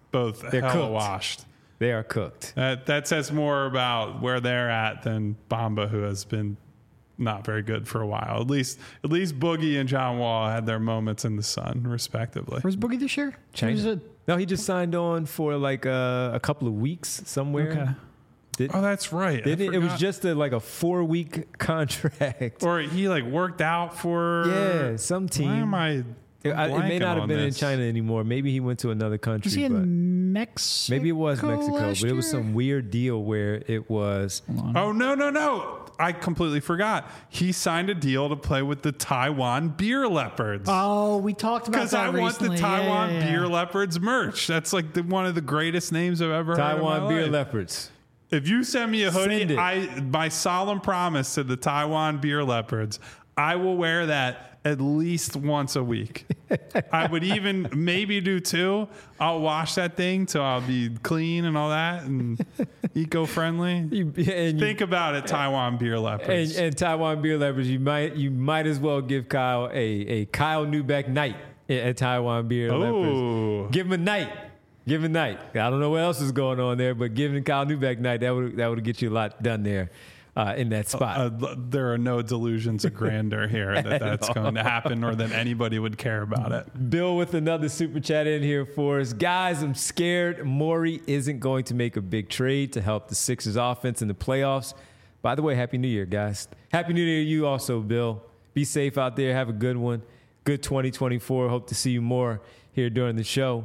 both
They're
hella
cooked.
washed.
They are cooked.
That that says more about where they're at than Bamba, who has been not very good for a while. At least at least Boogie and John Wall had their moments in the sun, respectively.
Where's Boogie this year?
China.
He was a-
No, he just signed on for like a, a couple of weeks somewhere.
okay.
Did,
Oh, that's right. I
did it, it was
forgot.
just a, like a four week contract.
or he like worked out for
Yeah, some team.
Why am I?
It, I- it may
blanking
not have
on
been in
this?
China anymore. Maybe he went to another country.
Was he
but
in Mexico?
maybe it was Mexico,
last
but it was
year?
some weird deal where it was.
Oh no no no! I completely forgot. He signed a deal to play with the Taiwan Beer Leopards.
Oh, we talked about
Because
that
I want the
recently. Yeah,
Taiwan
yeah, yeah.
Beer Leopards merch. That's like the, one of the greatest names I've ever heard.
Taiwan
in my
Beer
life.
Leopards.
If you send me a
Send
hoodie,
it.
I my solemn promise to the Taiwan Beer Leopards, I will wear that at least once a week. I would even maybe do two. I'll wash that thing till I'll be clean and all that and eco-friendly.
You, and, you,
Think about it, Taiwan Beer
and,
Leopards.
and Taiwan Beer Leopards, you might you might as well give Kyle a, a Kyle Newbeck night at Taiwan Beer
Ooh.
Leopards. Give him a night. Give him a night. I don't know what else is going on there, but giving Kyle Newbeck night, that would that would get you a lot done there uh, in that spot.
Uh, there are no delusions of grandeur here that that's going to happen or that anybody would care about it.
Bill with another super chat in here for us. Guys, I'm scared Morey isn't going to make a big trade to help the Sixers offense in the playoffs. By the way, Happy New Year, guys. Happy New Year to you also, Bill. Be safe out there. Have a good one. Good twenty twenty-four. Hope to see you more here during the show.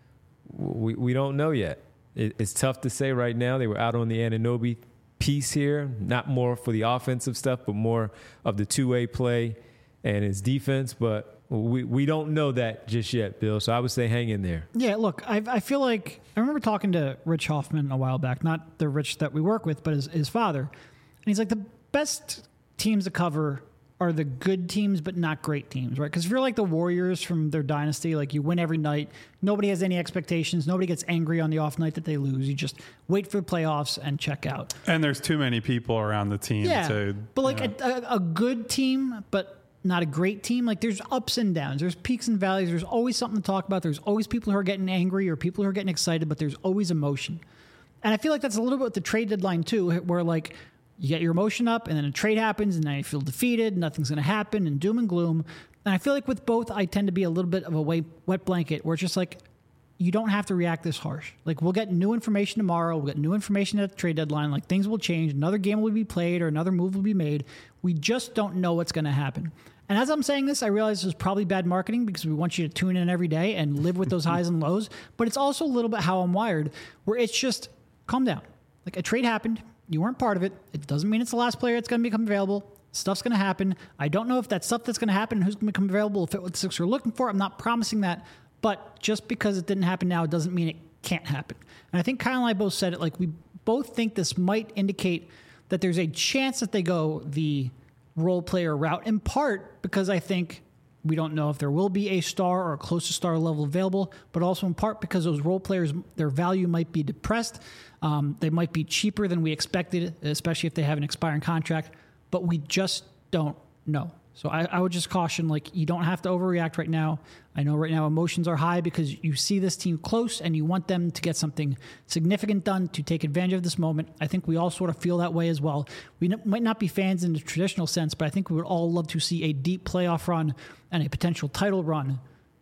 We we don't know yet. It, it's tough to say right now. They were out on the Anunoby piece here, not more for the offensive stuff, but more of the two-way play and his defense. But we, we don't know that just yet, Bill. So I would say hang in there.
Yeah, look, I, I feel like I remember talking to Rich Hoffman a while back, not the Rich that we work with, but his, his father. And he's like, the best teams to cover are the good teams, but not great teams, right? Because if you're like the Warriors from their dynasty, like you win every night, nobody has any expectations, nobody gets angry on the off night that they lose. You just wait for the playoffs and check out.
And there's too many people around the team
Yeah,
to.
but like
you know.
a, a, a good team, but not a great team. Like there's ups and downs. There's peaks and valleys. There's always something to talk about. There's always people who are getting angry or people who are getting excited, but there's always emotion. And I feel like that's a little bit with the trade deadline too, where like you get your emotion up and then a trade happens and now you feel defeated, nothing's going to happen and doom and gloom. And I feel like with both, I tend to be a little bit of a wet blanket where it's just like, you don't have to react this harsh. Like we'll get new information tomorrow. We'll get new information at the trade deadline. Like things will change. Another game will be played or another move will be made. We just don't know what's going to happen. And as I'm saying this, I realize this is probably bad marketing because we want you to tune in every day and live with those highs and lows. But it's also a little bit how I'm wired, where it's just calm down. Like a trade happened. You weren't part of it. It doesn't mean it's the last player that's going to become available. Stuff's going to happen. I don't know if that stuff that's going to happen and who's going to become available will fit what the Sixers are looking for. I'm not promising that. But just because it didn't happen now, it doesn't mean it can't happen. And I think Kyle and I both said it. Like we both think this might indicate that there's a chance that they go the role player route, in part because I think we don't know if there will be a star or a close to star level available, but also in part because those role players, their value might be depressed. Um, they might be cheaper than we expected, especially if they have an expiring contract, but we just don't know. So I, I would just caution, like, you don't have to overreact right now. I know right now emotions are high because you see this team close and you want them to get something significant done to take advantage of this moment. I think we all sort of feel that way as well. We n- might not be fans in the traditional sense, but I think we would all love to see a deep playoff run and a potential title run.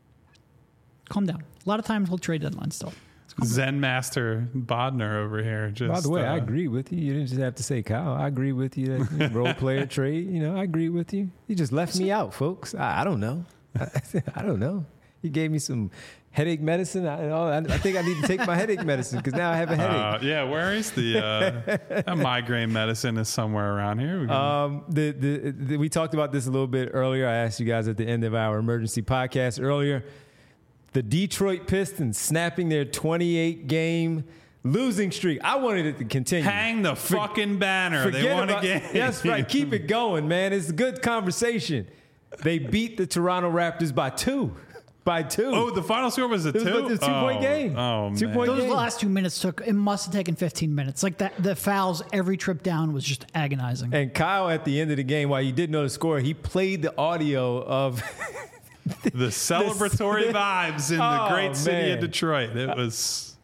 Calm down. A lot of times we'll trade deadlines still.
Zen Master Bodner over here. Just,
By the way,
uh,
I agree with you. You didn't just have to say Kyle. I agree with you. That you know, role player trade. You know, I agree with you. You just left me out, folks. I, I don't know. I, I don't know. You gave me some headache medicine. I, I, I think I need to take my headache medicine because now I have a headache.
Uh, yeah, where is the uh, that migraine medicine? Is somewhere around here. We, can,
Um, the, the, the, we talked about this a little bit earlier. I asked you guys at the end of our emergency podcast earlier. The Detroit Pistons snapping their twenty-eight game losing streak. I wanted it to continue.
hang the
For-
fucking banner. They
Forget
won
about-
again.
That's right. Keep it going, man. It's a good conversation. They beat the Toronto Raptors by two. By two.
Oh, the final score was a
It was
two.
like the two-point
oh,
game.
Oh,
Two
man.
point-
Those
game.
last two minutes took, it must have taken fifteen minutes. Like that, the fouls every trip down was just agonizing.
And Kyle, at the end of the game, while you didn't know the score, he played the audio of
The celebratory vibes in the
Oh,
great city
man.
of Detroit. It was.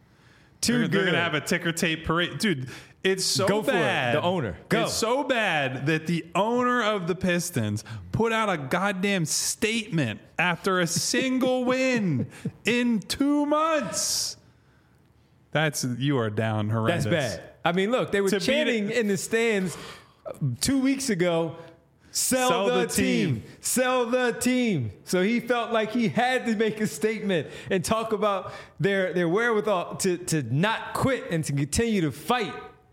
Too
they're,
good.
They're going to have a ticker tape parade. Dude, it's so
Go for it.
bad.
The owner. Go.
It's so bad that the owner of the Pistons put out a goddamn statement after a single win in two months. That's, you are down horrendous.
That's bad. I mean, look, they were
To beat
chanting
it-
in the stands two weeks ago, sell,
Sell
the,
the
team.
team.
Sell the team. So he felt like he had to make a statement and talk about their, their wherewithal to, to not quit and to continue to fight.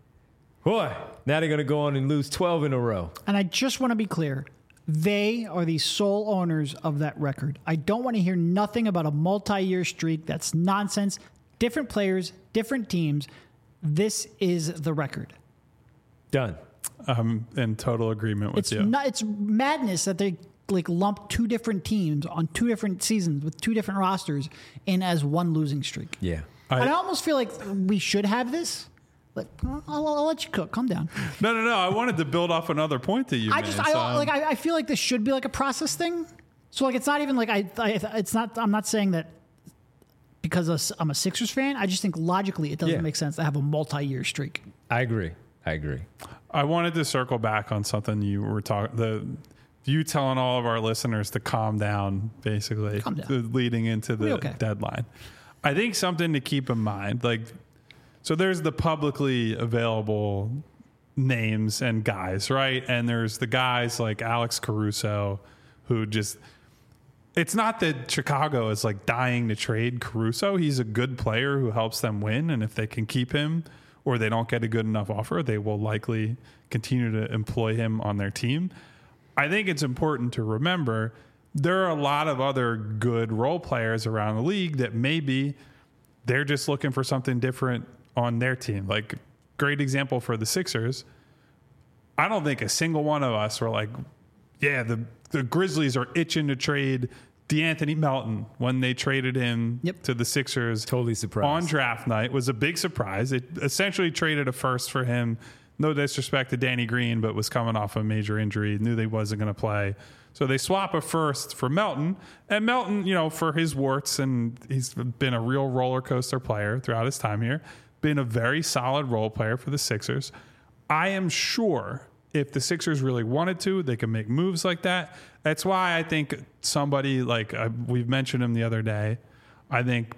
Boy, now they're going to go on and lose twelve in a row.
And I just want to be clear. They are the sole owners of that record. I don't want to hear nothing about a multi-year streak. That's nonsense. Different players, different teams. This is the record.
Done.
I'm in total agreement with
It's
you.
not. It's madness that they like lump two different teams on two different seasons with two different rosters in as one losing streak.
Yeah.
I-
and I almost feel like we should have this. Like, I'll, I'll let you cook. Calm down.
no, no, no. I wanted to build off another point that you
I
made.
just,
so
I
I'm-
like. I, I feel like this should be like a process thing. So like, it's not even like I. I it's not. I'm not saying that because I'm a Sixers fan. I just think logically it doesn't
Yeah.
make sense to have a multi-year streak.
I agree. I agree.
I wanted to circle back on something you were talking. The you telling all of our listeners to calm down, basically,
Calm down.
the- leading into the
We'll be okay.
deadline. I think something to keep in mind, like, so there's the publicly available names and guys, right? And there's the guys like Alex Caruso, who just. It's not that Chicago is like dying to trade Caruso. He's a good player who helps them win, and if they can keep him, or they don't get a good enough offer, they will likely continue to employ him on their team. I think it's important to remember there are a lot of other good role players around the league that maybe they're just looking for something different on their team. Like, great example for the Sixers. I don't think a single one of us were like, yeah, the, the Grizzlies are itching to trade DeAnthony Melton when they traded him
Yep.
to the Sixers.
Totally surprised.
On draft night was a big surprise. It essentially traded a first for him. No disrespect to Danny Green, but was coming off a major injury. Knew they wasn't going to play. So they swap a first for Melton. And Melton, you know, for his warts, and he's been a real roller coaster player throughout his time here, been a very solid role player for the Sixers. I am sure if the Sixers really wanted to, they could make moves like that. That's why I think somebody like uh, we've mentioned him the other day. I think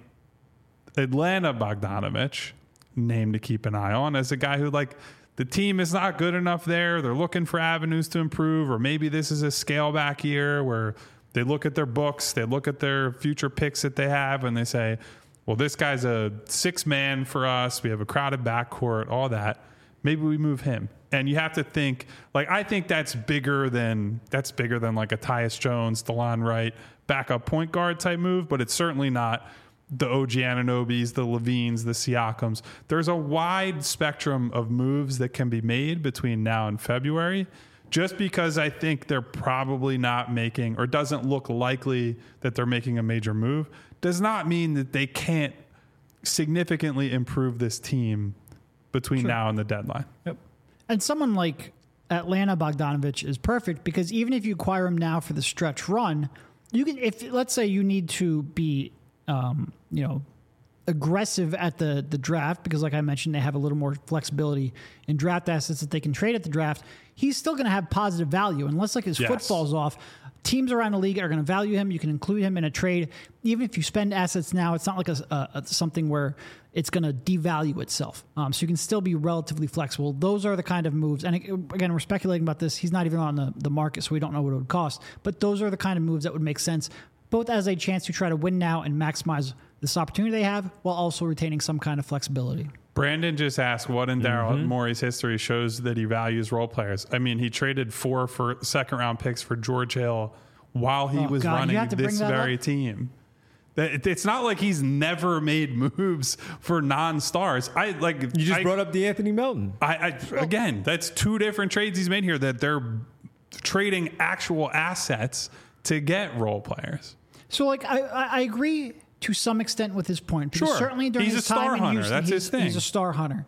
Atlanta Bogdanovich, name to keep an eye on, as a guy who, like, the team is not good enough there. They're looking for avenues to improve, or maybe this is a scale back year where they look at their books, they look at their future picks that they have, and they say, well, this guy's a six man for us. We have a crowded backcourt, all that. Maybe we move him. And you have to think, like, I think that's bigger than that's bigger than like a Tyus Jones, DeLon Wright, backup point guard type move, but it's certainly not the O G Ananobis, the Levines, the Siakams. There's a wide spectrum of moves that can be made between now and February. Just because I think they're probably not making, or doesn't look likely that they're making a major move, does not mean that they can't significantly improve this team between
Sure.
now and the deadline.
Yep.
And someone like Atlanta Bogdanovich is perfect because even if you acquire him now for the stretch run, you can, if let's say you need to be, um, you know, aggressive at the the draft because, like I mentioned, they have a little more flexibility in draft assets that they can trade at the draft. He's still going to have positive value unless like his
Yes.
foot falls off. Teams around the league are going to value him. You can include him in a trade. Even if you spend assets now, it's not like a, a, a something where it's going to devalue itself. Um, so you can still be relatively flexible. Those are the kind of moves. And again, we're speculating about this. He's not even on the, the market, so we don't know what it would cost. But those are the kind of moves that would make sense, both as a chance to try to win now and maximize this opportunity they have while also retaining some kind of flexibility.
Brandon just asked what in Daryl Morey's history shows that he values role players. I mean, he traded four for second round picks for George Hill while he
Oh,
was
God, you
running
have to bring
this
that
very
up?
team. That- It's not like he's never made moves for non-stars. I like
You just
I,
brought up DeAnthony Melton.
I, I again, that's two different trades he's made here. That they're trading actual assets to get role players.
So, like, I, I I agree to some extent with his point. Because
Sure.
certainly during
He's
his
a star
time in
hunter.
Houston,
That's
he's,
his thing.
he's a star hunter.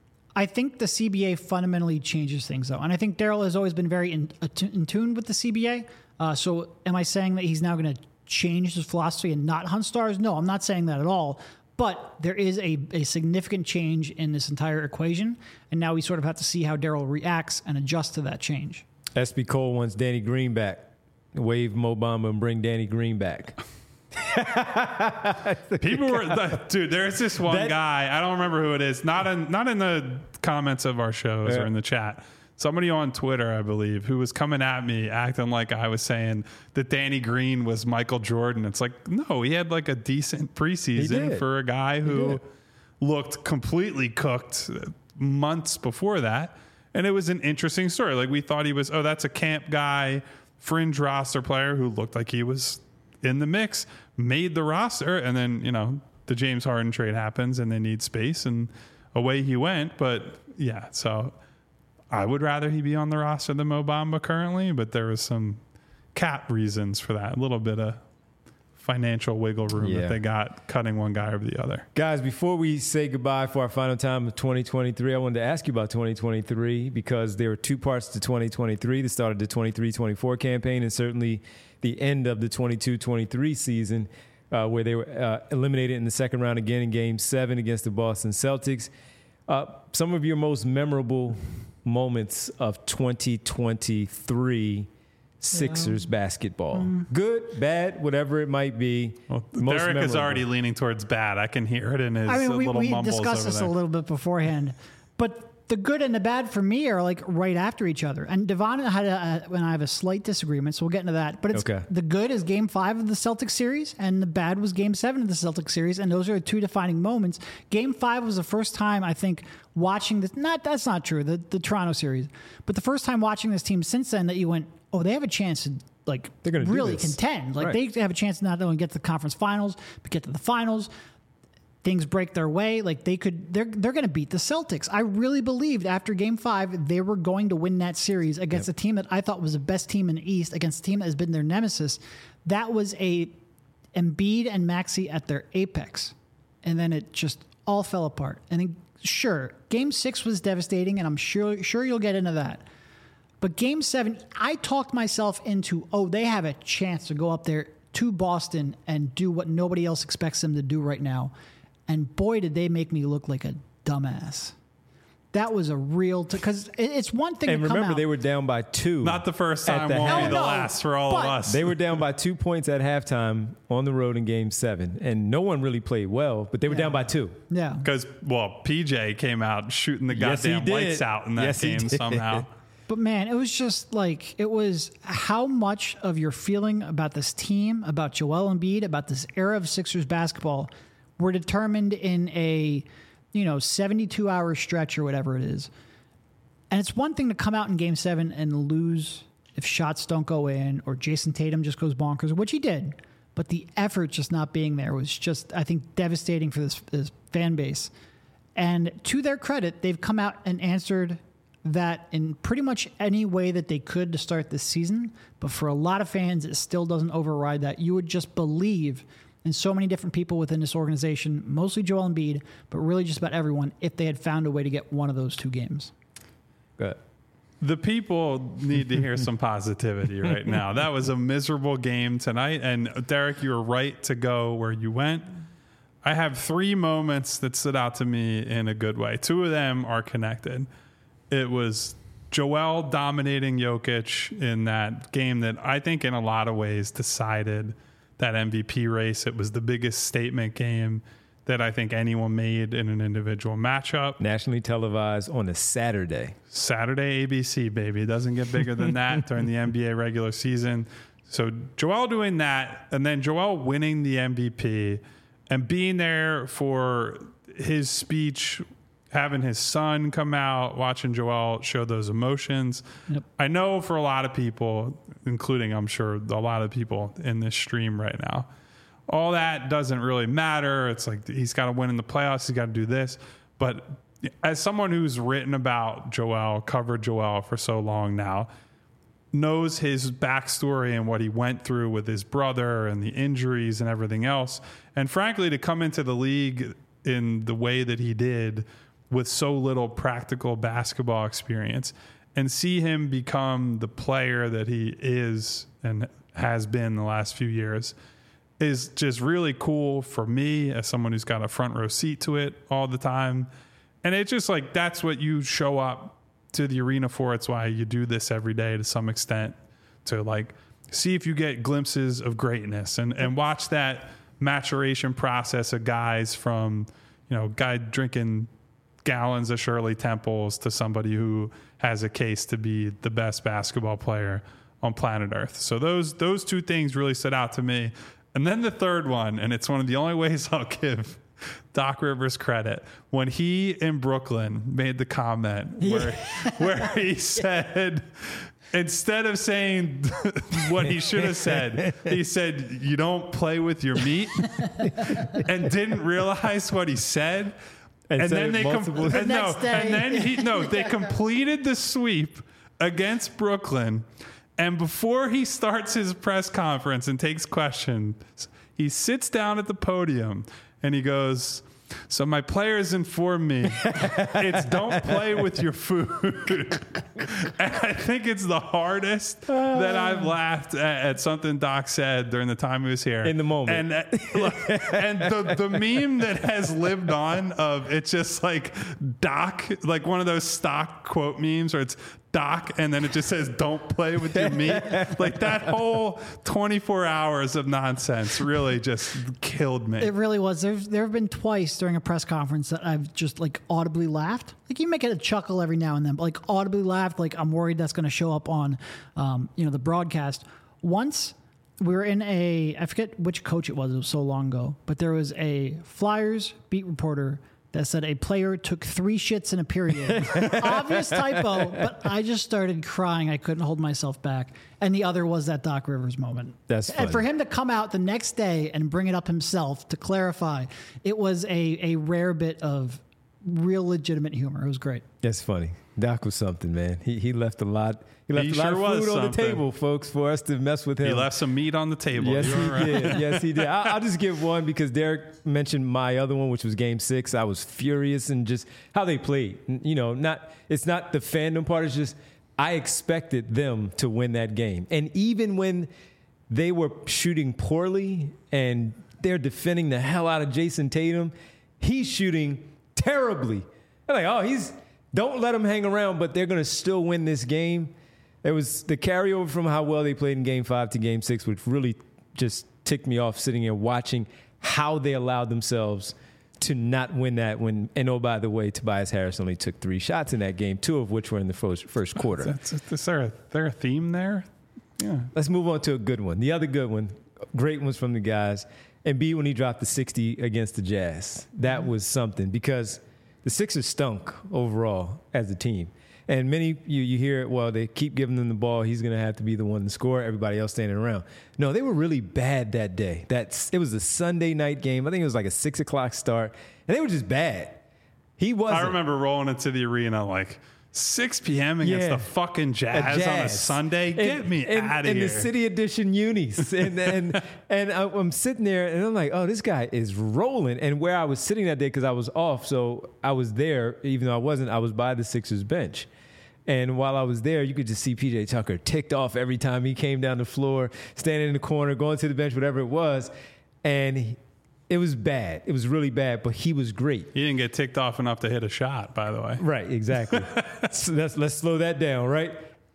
I think the C B A fundamentally changes things, though. And I think Daryl has always been very in, in tune with the C B A. Uh, so am I saying that he's now going to change his philosophy and not hunt stars? No, I'm not saying that at all. But there is a, a significant change in this entire equation, and now we sort of have to see how Daryl reacts and adjusts to that change.
S B Cole wants Danny Green back. Wave Mo Bamba and bring Danny Green back.
People were, dude. There's this one
That-
guy. I don't remember who it is. Not in not in the comments of our shows
Yeah.
or in the chat. Somebody on Twitter, I believe, who was coming at me, acting like I was saying that Danny Green was Michael Jordan. It's like, no, he had like a decent preseason
did.
for a guy
He
who
did.
looked completely cooked months before that. And it was an interesting story. Like we thought he was, oh, that's a camp guy, fringe roster player who looked like he was in the mix, made the roster, and then, you know, the James Harden trade happens and they need space and away he went. But yeah, so I would rather he be on the roster than Mo Bamba currently, but there was some cap reasons for that. A little bit of financial wiggle room
Yeah.
that they got cutting one guy over the other.
Guys, before we say goodbye for our final time of twenty twenty-three, I wanted to ask you about twenty twenty-three because there were two parts to twenty twenty-three, the start of the twenty-three twenty-four campaign and certainly the end of the twenty-two twenty-three season uh, where they were uh, eliminated in the second round again in Game seven against the Boston Celtics. Uh, some of your most memorable moments of twenty twenty-three Sixers basketball. Good, bad, whatever it might be.
Well,
most
Derek is
memorable.
already leaning towards bad. I can hear it in his
I mean, we,
little
we
mumbles
discussed
over
this
there.
a little bit beforehand, but the good and the bad for me are like right after each other. And Devon and I had a, when I have a slight disagreement, so we'll get into that. But it's
Okay.
the good is Game Five of the Celtics series, and the bad was Game Seven of the Celtics series, and those are the two defining moments. Game Five was the first time I think watching this. Not that's not true. The the Toronto series, but the first time watching this team since then that you went, oh, they have a chance to. Like
They're gonna do
really
this.
contend. Like
Right.
they have a chance to not only get to the conference finals, but get to the finals. Things break their way. Like they could, they're they're going to beat the Celtics. I really believed after Game Five they were going to win that series against
Yep.
a team that I thought was the best team in the East, against a team that has been their nemesis. That was a Embiid and Maxey at their apex, and then it just all fell apart. And then, sure, Game Six was devastating, and I'm sure sure you'll get into that. But Game Seven, I talked myself into, oh, they have a chance to go up there to Boston and do what nobody else expects them to do right now. And boy, did they make me look like a dumbass. That was a real, because it's one thing
And
to come
remember,
out.
they were down by two.
Not the first
At
time,
the
won't
half.
be the
No, no,
last for all
but-
of us.
They were down by two points at halftime on the road in Game Seven, and no one really played well. But they were
Yeah.
down by two.
yeah.
Because, well, P J came out shooting the
Yes, he
goddamn
did.
lights out in that
Yes, he
game
did.
somehow.
But man, it was just like, it was how much of your feeling about this team, about Joel Embiid, about this era of Sixers basketball were determined in a, you know, seventy-two hour stretch or whatever it is. And it's one thing to come out in Game Seven and lose if shots don't go in or Jason Tatum just goes bonkers, which he did. But the effort just not being there was just, I think, devastating for this, this fan base. And to their credit, they've come out and answered that in pretty much any way that they could to start this season. But for a lot of fans, it still doesn't override that. You would just believe in so many different people within this organization, mostly Joel Embiid, but really just about everyone, if they had found a way to get one of those two games.
Good.
The people need to hear some positivity right now. That was a miserable game tonight. And Derek, you were right to go where you went. I have three moments that stood out to me in a good way. Two of them are connected. It was Joel dominating Jokic in that game that I think in a lot of ways decided that M V P race. It was the biggest statement game that I think anyone made in an individual matchup.
Nationally televised on a Saturday.
Saturday A B C, baby. It doesn't get bigger than that during the N B A regular season. So Joel doing that, and then Joel winning the M V P and being there for his speech, having his son come out, watching Joel show those emotions.
Yep.
I know for a lot of people, including I'm sure a lot of people in this stream right now, all that doesn't really matter. It's like he's got to win in the playoffs. He's got to do this. But as someone who's written about Joel, covered Joel for so long now, knows his backstory and what he went through with his brother and the injuries and everything else. And frankly, to come into the league in the way that he did with so little practical basketball experience and see him become the player that he is and has been the last few years, is just really cool for me as someone who's got a front row seat to it all the time. And it's just like, that's what you show up to the arena for. It's why you do this every day to some extent, to like see if you get glimpses of greatness and, and watch that maturation process of guys from, you know, guy drinking gallons of Shirley Temples to somebody who has a case to be the best basketball player on planet Earth. So those, those two things really stood out to me. And then the third one, and it's one of the only ways I'll give Doc Rivers credit, when he in Brooklyn made the comment where, yeah. where he said, instead of saying what he should have said, he said, "You don't play with your meat," and didn't realize what he said. And, and then they com-
the
and no, and then he no, they completed the sweep against Brooklyn. And before he starts his press conference and takes questions, he sits down at the podium and he goes, "So my players informed me it's don't play with your food." And I think it's the hardest that I've laughed at, at something Doc said during the time he was here.
In the moment.
And, uh, and the, the meme that has lived on of it's just like Doc, like one of those stock quote memes where it's Doc, and then it just says, "Don't play with your meat." Like that whole twenty-four hours of nonsense really just killed me.
It really was. There's, there have been twice during a press conference that I've just like audibly laughed. Like you make it a chuckle every now and then, but like audibly laughed. Like I'm worried that's going to show up on, um, you know, the broadcast. Once we were in a, I forget which coach it was. It was so long ago, but there was a Flyers beat reporter that said a player took three shits in a period. Obvious typo, but I just started crying. I couldn't hold myself back. And the other was that Doc Rivers moment.
That's funny.
And for him to come out the next day and bring it up himself to clarify, it was a, a rare bit of real legitimate humor. It was great.
That's funny. Doc was something, man. He he left a lot. He left
He
a lot
sure
of food
was
on the
something.
table, folks, for us to mess with him.
He left some meat on the table.
Yes,
You're
he
right.
did. Yes, he did. I, I'll just give one because Derek mentioned my other one, which was Game Six. I was furious and just how they played. You know, not it's not the fandom part. It's just I expected them to win that game, and even when they were shooting poorly and they're defending the hell out of Jason Tatum, he's shooting terribly. They're like, oh, he's don't let him hang around, but they're going to still win this game. It was the carryover from how well they played in Game Five to Game Six, which really just ticked me off sitting here watching how they allowed themselves to not win that. When and oh, by the way, Tobias Harris only took three shots in that game, two of which were in the first first quarter.
That's, is there a, there a theme there? Yeah.
Let's move on to a good one. The other good one, great ones from the guys. Embiid when he dropped the sixty against the Jazz. That mm-hmm. was something because the Sixers stunk overall as a team. And many, you, you hear it, well, they keep giving them the ball. He's going to have to be the one to score. Everybody else standing around. No, they were really bad that day. That's, it was a Sunday night game. I think it was like a six o'clock start. And they were just bad. He wasn't.
I remember rolling into the arena like six p.m. against
Yeah.
the fucking Jazz,
Jazz.
on a Sunday. Get
And-
me
and-
out of
in
here.
the City Edition unis. And and, and I- I'm sitting there, and I'm like, oh, this guy is rolling. And where I was sitting that day, because I was off, so I was there, even though I wasn't, I was by the Sixers bench. And while I was there, you could just see P J Tucker ticked off every time he came down the floor, standing in the corner, going to the bench, whatever it was. And he, it was bad. It was really bad, but he was great.
He didn't get ticked off enough to hit a shot, by the way.
Right, exactly. So let's, let's slow that down, right?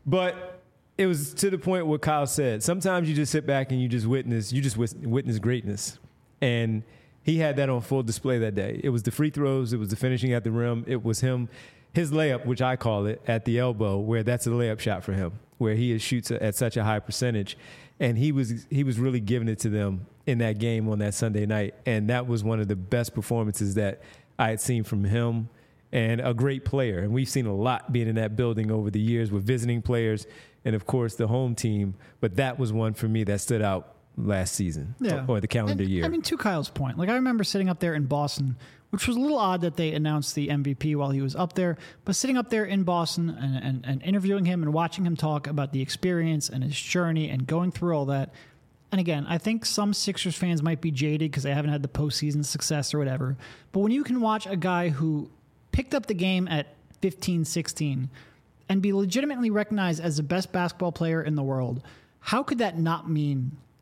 But it was to the point where Kyle said, sometimes you just sit back and you just witness, you just wis- witness greatness. And he had that on full display that day. It was the free throws. It was the finishing at the rim. It was him, his layup, which I call it, at the elbow, where that's a layup shot for him, where he shoots at such a high percentage. And he was he was really giving it to them in that game on that Sunday night. And that was one of the best performances that I had seen from him, and a great player. And we've seen a lot being in that building over the years with visiting players and, of course, the home team. But that was one for me that stood out last season
Yeah.
or the calendar
And,
year.
I mean, to Kyle's point, like I remember sitting up there in Boston, which was a little odd that they announced the M V P while he was up there, but sitting up there in Boston and, and, and interviewing him and watching him talk about the experience and his journey and going through all that. And again, I think some Sixers fans might be jaded because they haven't had the postseason success or whatever. But when you can watch a guy who picked up the game at fifteen, sixteen and be legitimately recognized as the best basketball player in the world, how could that not mean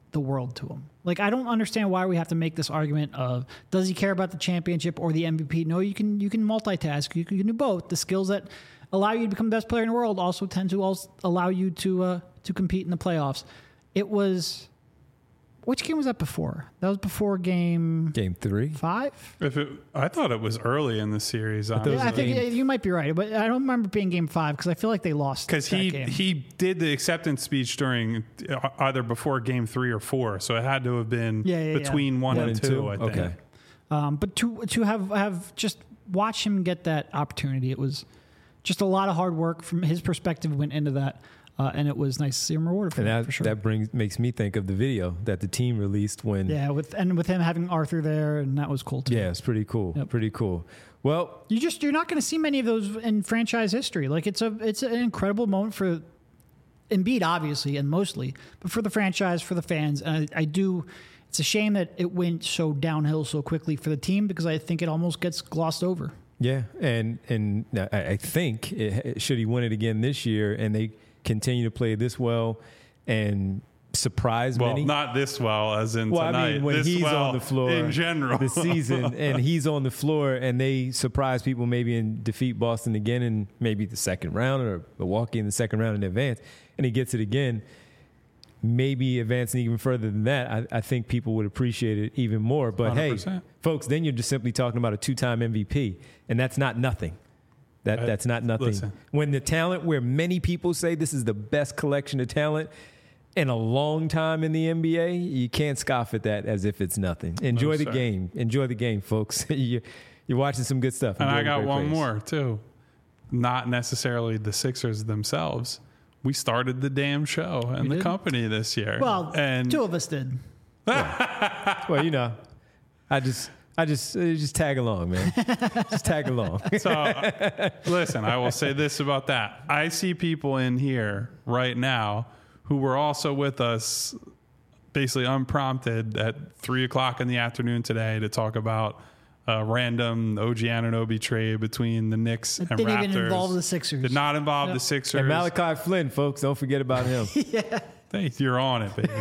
the world to him. Like, I don't understand why we have to make this argument of, does he care about the championship or the M V P? No, you can you can multitask. You can, you can do both. The skills that allow you to become the best player in the world also tend to also allow you to uh, to compete in the playoffs. It was... Which game was that before? That was before game...
Game three?
Five?
If it, I thought it was early in the series.
thought it was
Yeah, I think
game-
you might be right, but I don't remember being game five because I feel like they lost
Because
that
he
game.
he did the acceptance speech during uh, either before game three or four, so it had to have been
Yeah, yeah, yeah.
between one,
One
and
and
two.
two?
I think.
Okay.
Um, but to to have have just watch him get that opportunity, it was just a lot of hard work from his perspective went into that, uh, and it was nice to see him rewarded for,
And
that,
that,
for sure.
that brings makes me think of the video that the team released when.
yeah, with and with him having Arthur there, and that was cool too.
Yeah, it's pretty cool.
Yep.
Pretty cool. Well,
You just you're not going to see many of those in franchise history. Like it's a it's an incredible moment for Embiid, obviously, and mostly, but for the franchise, for the fans, and I, I do. It's a shame that it went so downhill so quickly for the team because I think it almost gets glossed over.
yeah, and and I, I think it, should he win it again this year, and they continue to play this well and surprise
Well,
many.
not this well as in
Well,
tonight.
I mean, when
this
he's
well
on the floor
in general
this season, and he's on the floor, and they surprise people maybe and defeat Boston again in maybe the second round or Milwaukee in the second round in advance, and he gets it again, maybe advancing even further than that, I, I think people would appreciate it even more. But
one hundred percent.
hey, folks, then you're just simply talking about a two-time M V P, and that's not nothing. That
Uh,
that's not nothing.
listen.
When the talent, where many people say this is the best collection of talent in a long time in the N B A, you can't scoff at that as if it's nothing. Enjoy
No,
the
sir.
game. Enjoy the game, folks. you, you're watching some good stuff.
And
Enjoy
I
the
got
great
one
plays.
more too. Not necessarily the Sixers themselves. We started the damn show and
We
the
did?
company this year.
Well,
and
two of us did.
Well, you know, I just, I just, uh, just tag along, man. just tag along.
So, uh, listen, I will say this about that. I see people in here right now who were also with us basically unprompted at three o'clock in the afternoon today to talk about a random O G Anunoby trade between the Knicks
It
and
didn't
Raptors.
even involve the Sixers.
Did not involve
Yep.
the Sixers.
And Malachi Flynn, folks, don't forget about him.
Hey, you're on it, baby.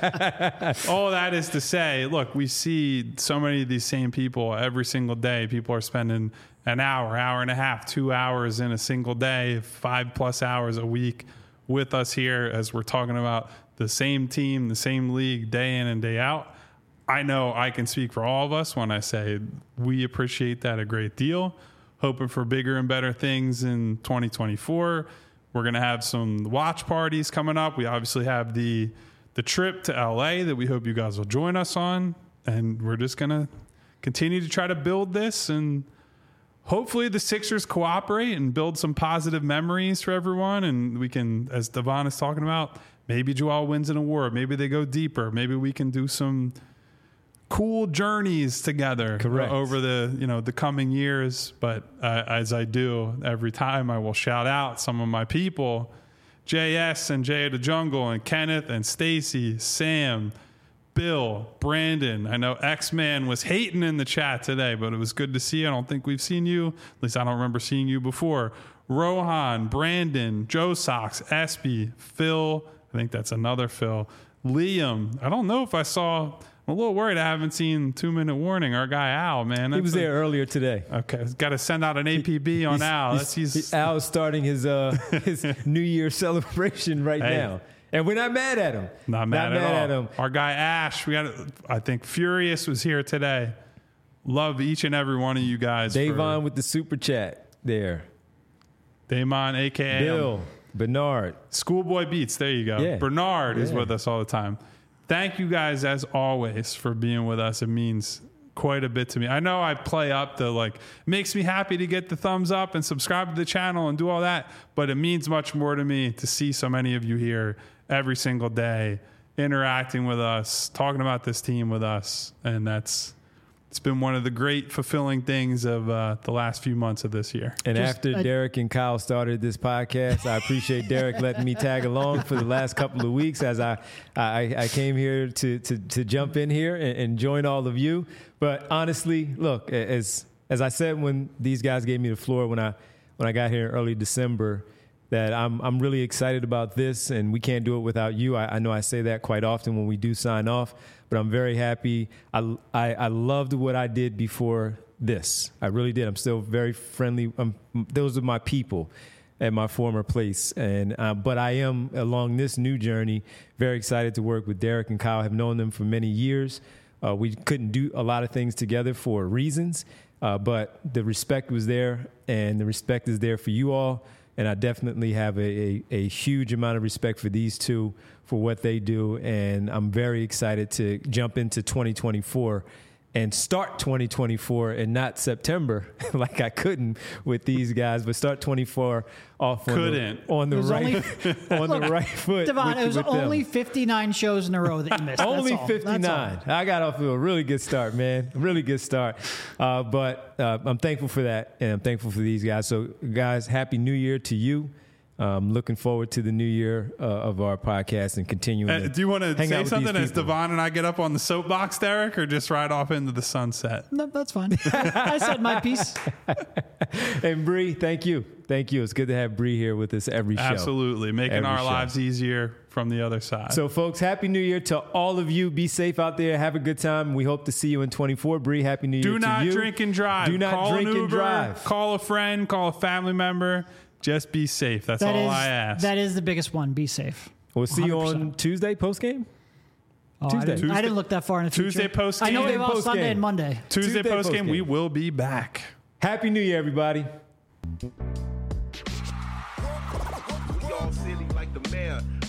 All that is to say, look, we see so many of these same people every single day. People are spending an hour, hour and a half, two hours in a single day, five plus hours a week with us here as we're talking about the same team, the same league, day in and day out. I know I can speak for all of us when I say we appreciate that a great deal. Hoping for bigger and better things in twenty twenty-four. We're going to have some watch parties coming up. We obviously have the the trip to L A that we hope you guys will join us on. And we're just going to continue to try to build this. And hopefully the Sixers cooperate and build some positive memories for everyone. And we can, as Devon is talking about, maybe Joel wins an award. Maybe they go deeper. Maybe we can do some cool journeys together
Correct.
over the you know the coming years. But uh, as I do every time, I will shout out some of my people, J S and Jay of the Jungle and Kenneth and Stacy, Sam, Bill, Brandon. I know X-Man was hating in the chat today, but it was good to see you. I don't think we've seen you. At least I don't remember seeing you before. Rohan, Brandon, Joe Sox, Espy, Phil. I think that's another Phil. Liam. I don't know if I saw... I'm a little worried I haven't seen Two Minute Warning. Our guy Al, man.
He was
That's a-
there earlier today.
Okay, got to send out an A P B on
He's-
Al.
he's-
That's he's,
he- Al's starting his uh, his New Year celebration right
Hey.
now, and we're not mad at him.
not mad,
not
at,
mad
all.
at him.
Our guy Ash. We got. I think Furious was here today. Love each and every one of you guys.
Davon with the super chat there.
Damon, aka
Bill, Bernard.
Schoolboy Beats. There you go.
Yeah.
Bernard is
Yeah.
with us all the time. Thank you guys as always for being with us. It means quite a bit to me. I know I play up the like makes me happy to get the thumbs up and subscribe to the channel and do all that, but it means much more to me to see so many of you here every single day interacting with us, talking about this team with us, and that's it's been one of the great fulfilling things of uh, the last few months of this year.
And
Just-
after
I-
Derek and Kyle started this podcast, I appreciate Derek letting me tag along for the last couple of weeks as I I, I came here to, to, to jump in here and, and join all of you. But honestly, look, as as I said when these guys gave me the floor when I when I got here in early December, that I'm I'm really excited about this, and we can't do it without you. I, I know I say that quite often when we do sign off, but I'm very happy. I, I, I loved what I did before this. I really did. I'm still very friendly. Um, those are my people at my former place, and uh, but I am, along this new journey, very excited to work with Derek and Kyle. I've known them for many years. Uh, we couldn't do a lot of things together for reasons, uh, but the respect was there, and the respect is there for you all. And I definitely have a, a, a huge amount of respect for these two, for what they do. And I'm very excited to jump into twenty twenty-four and start twenty twenty-four and not September like I couldn't with these guys, but start twenty-four off on
Couldn't.
the, on the right
only,
on the right foot.
Devon,
with,
it was
with
only
them.
fifty-nine shows in a row that you missed.
Only
That's all. That's
fifty-nine.
all.
I got off to a really good start, man. Really good start. Uh, but uh, I'm thankful for that, and I'm thankful for these guys. So, guys, Happy New Year to you. Um, looking forward to the new year uh, of our podcast and continuing.
Uh,
to
do you want to
hang out
say
with
something
these
as
people.
Devon and I get up on the soapbox, Derek, or just ride off into the sunset?
No, that's fine. I said my piece.
And Bree, thank you. Thank you. It's good to have Bree here with us every show.
Absolutely. Making
Every
our
show.
lives easier from the other side.
So, folks, Happy New Year to all of you. Be safe out there. Have a good time. We hope to see you in twenty-four. Bree, Happy New Year
Do
to
not
you.
drink and drive.
Do not
call
drink
an
and
Uber,
drive.
Call a friend. Call a family member. Just be safe. That's
That
all
is
I ask.
that is the biggest one. Be safe.
We'll see you
one hundred
on
percent.
Tuesday post game.
Oh,
Tuesday.
I, didn't, I
Tuesday-
didn't look that far in the future.
Tuesday post-game.
I know we have all
Post-game.
Sunday and Monday.
Tuesday,
Tuesday
post game,
postgame.
we will be back.
Happy New Year, everybody.
We all silly like the mayor.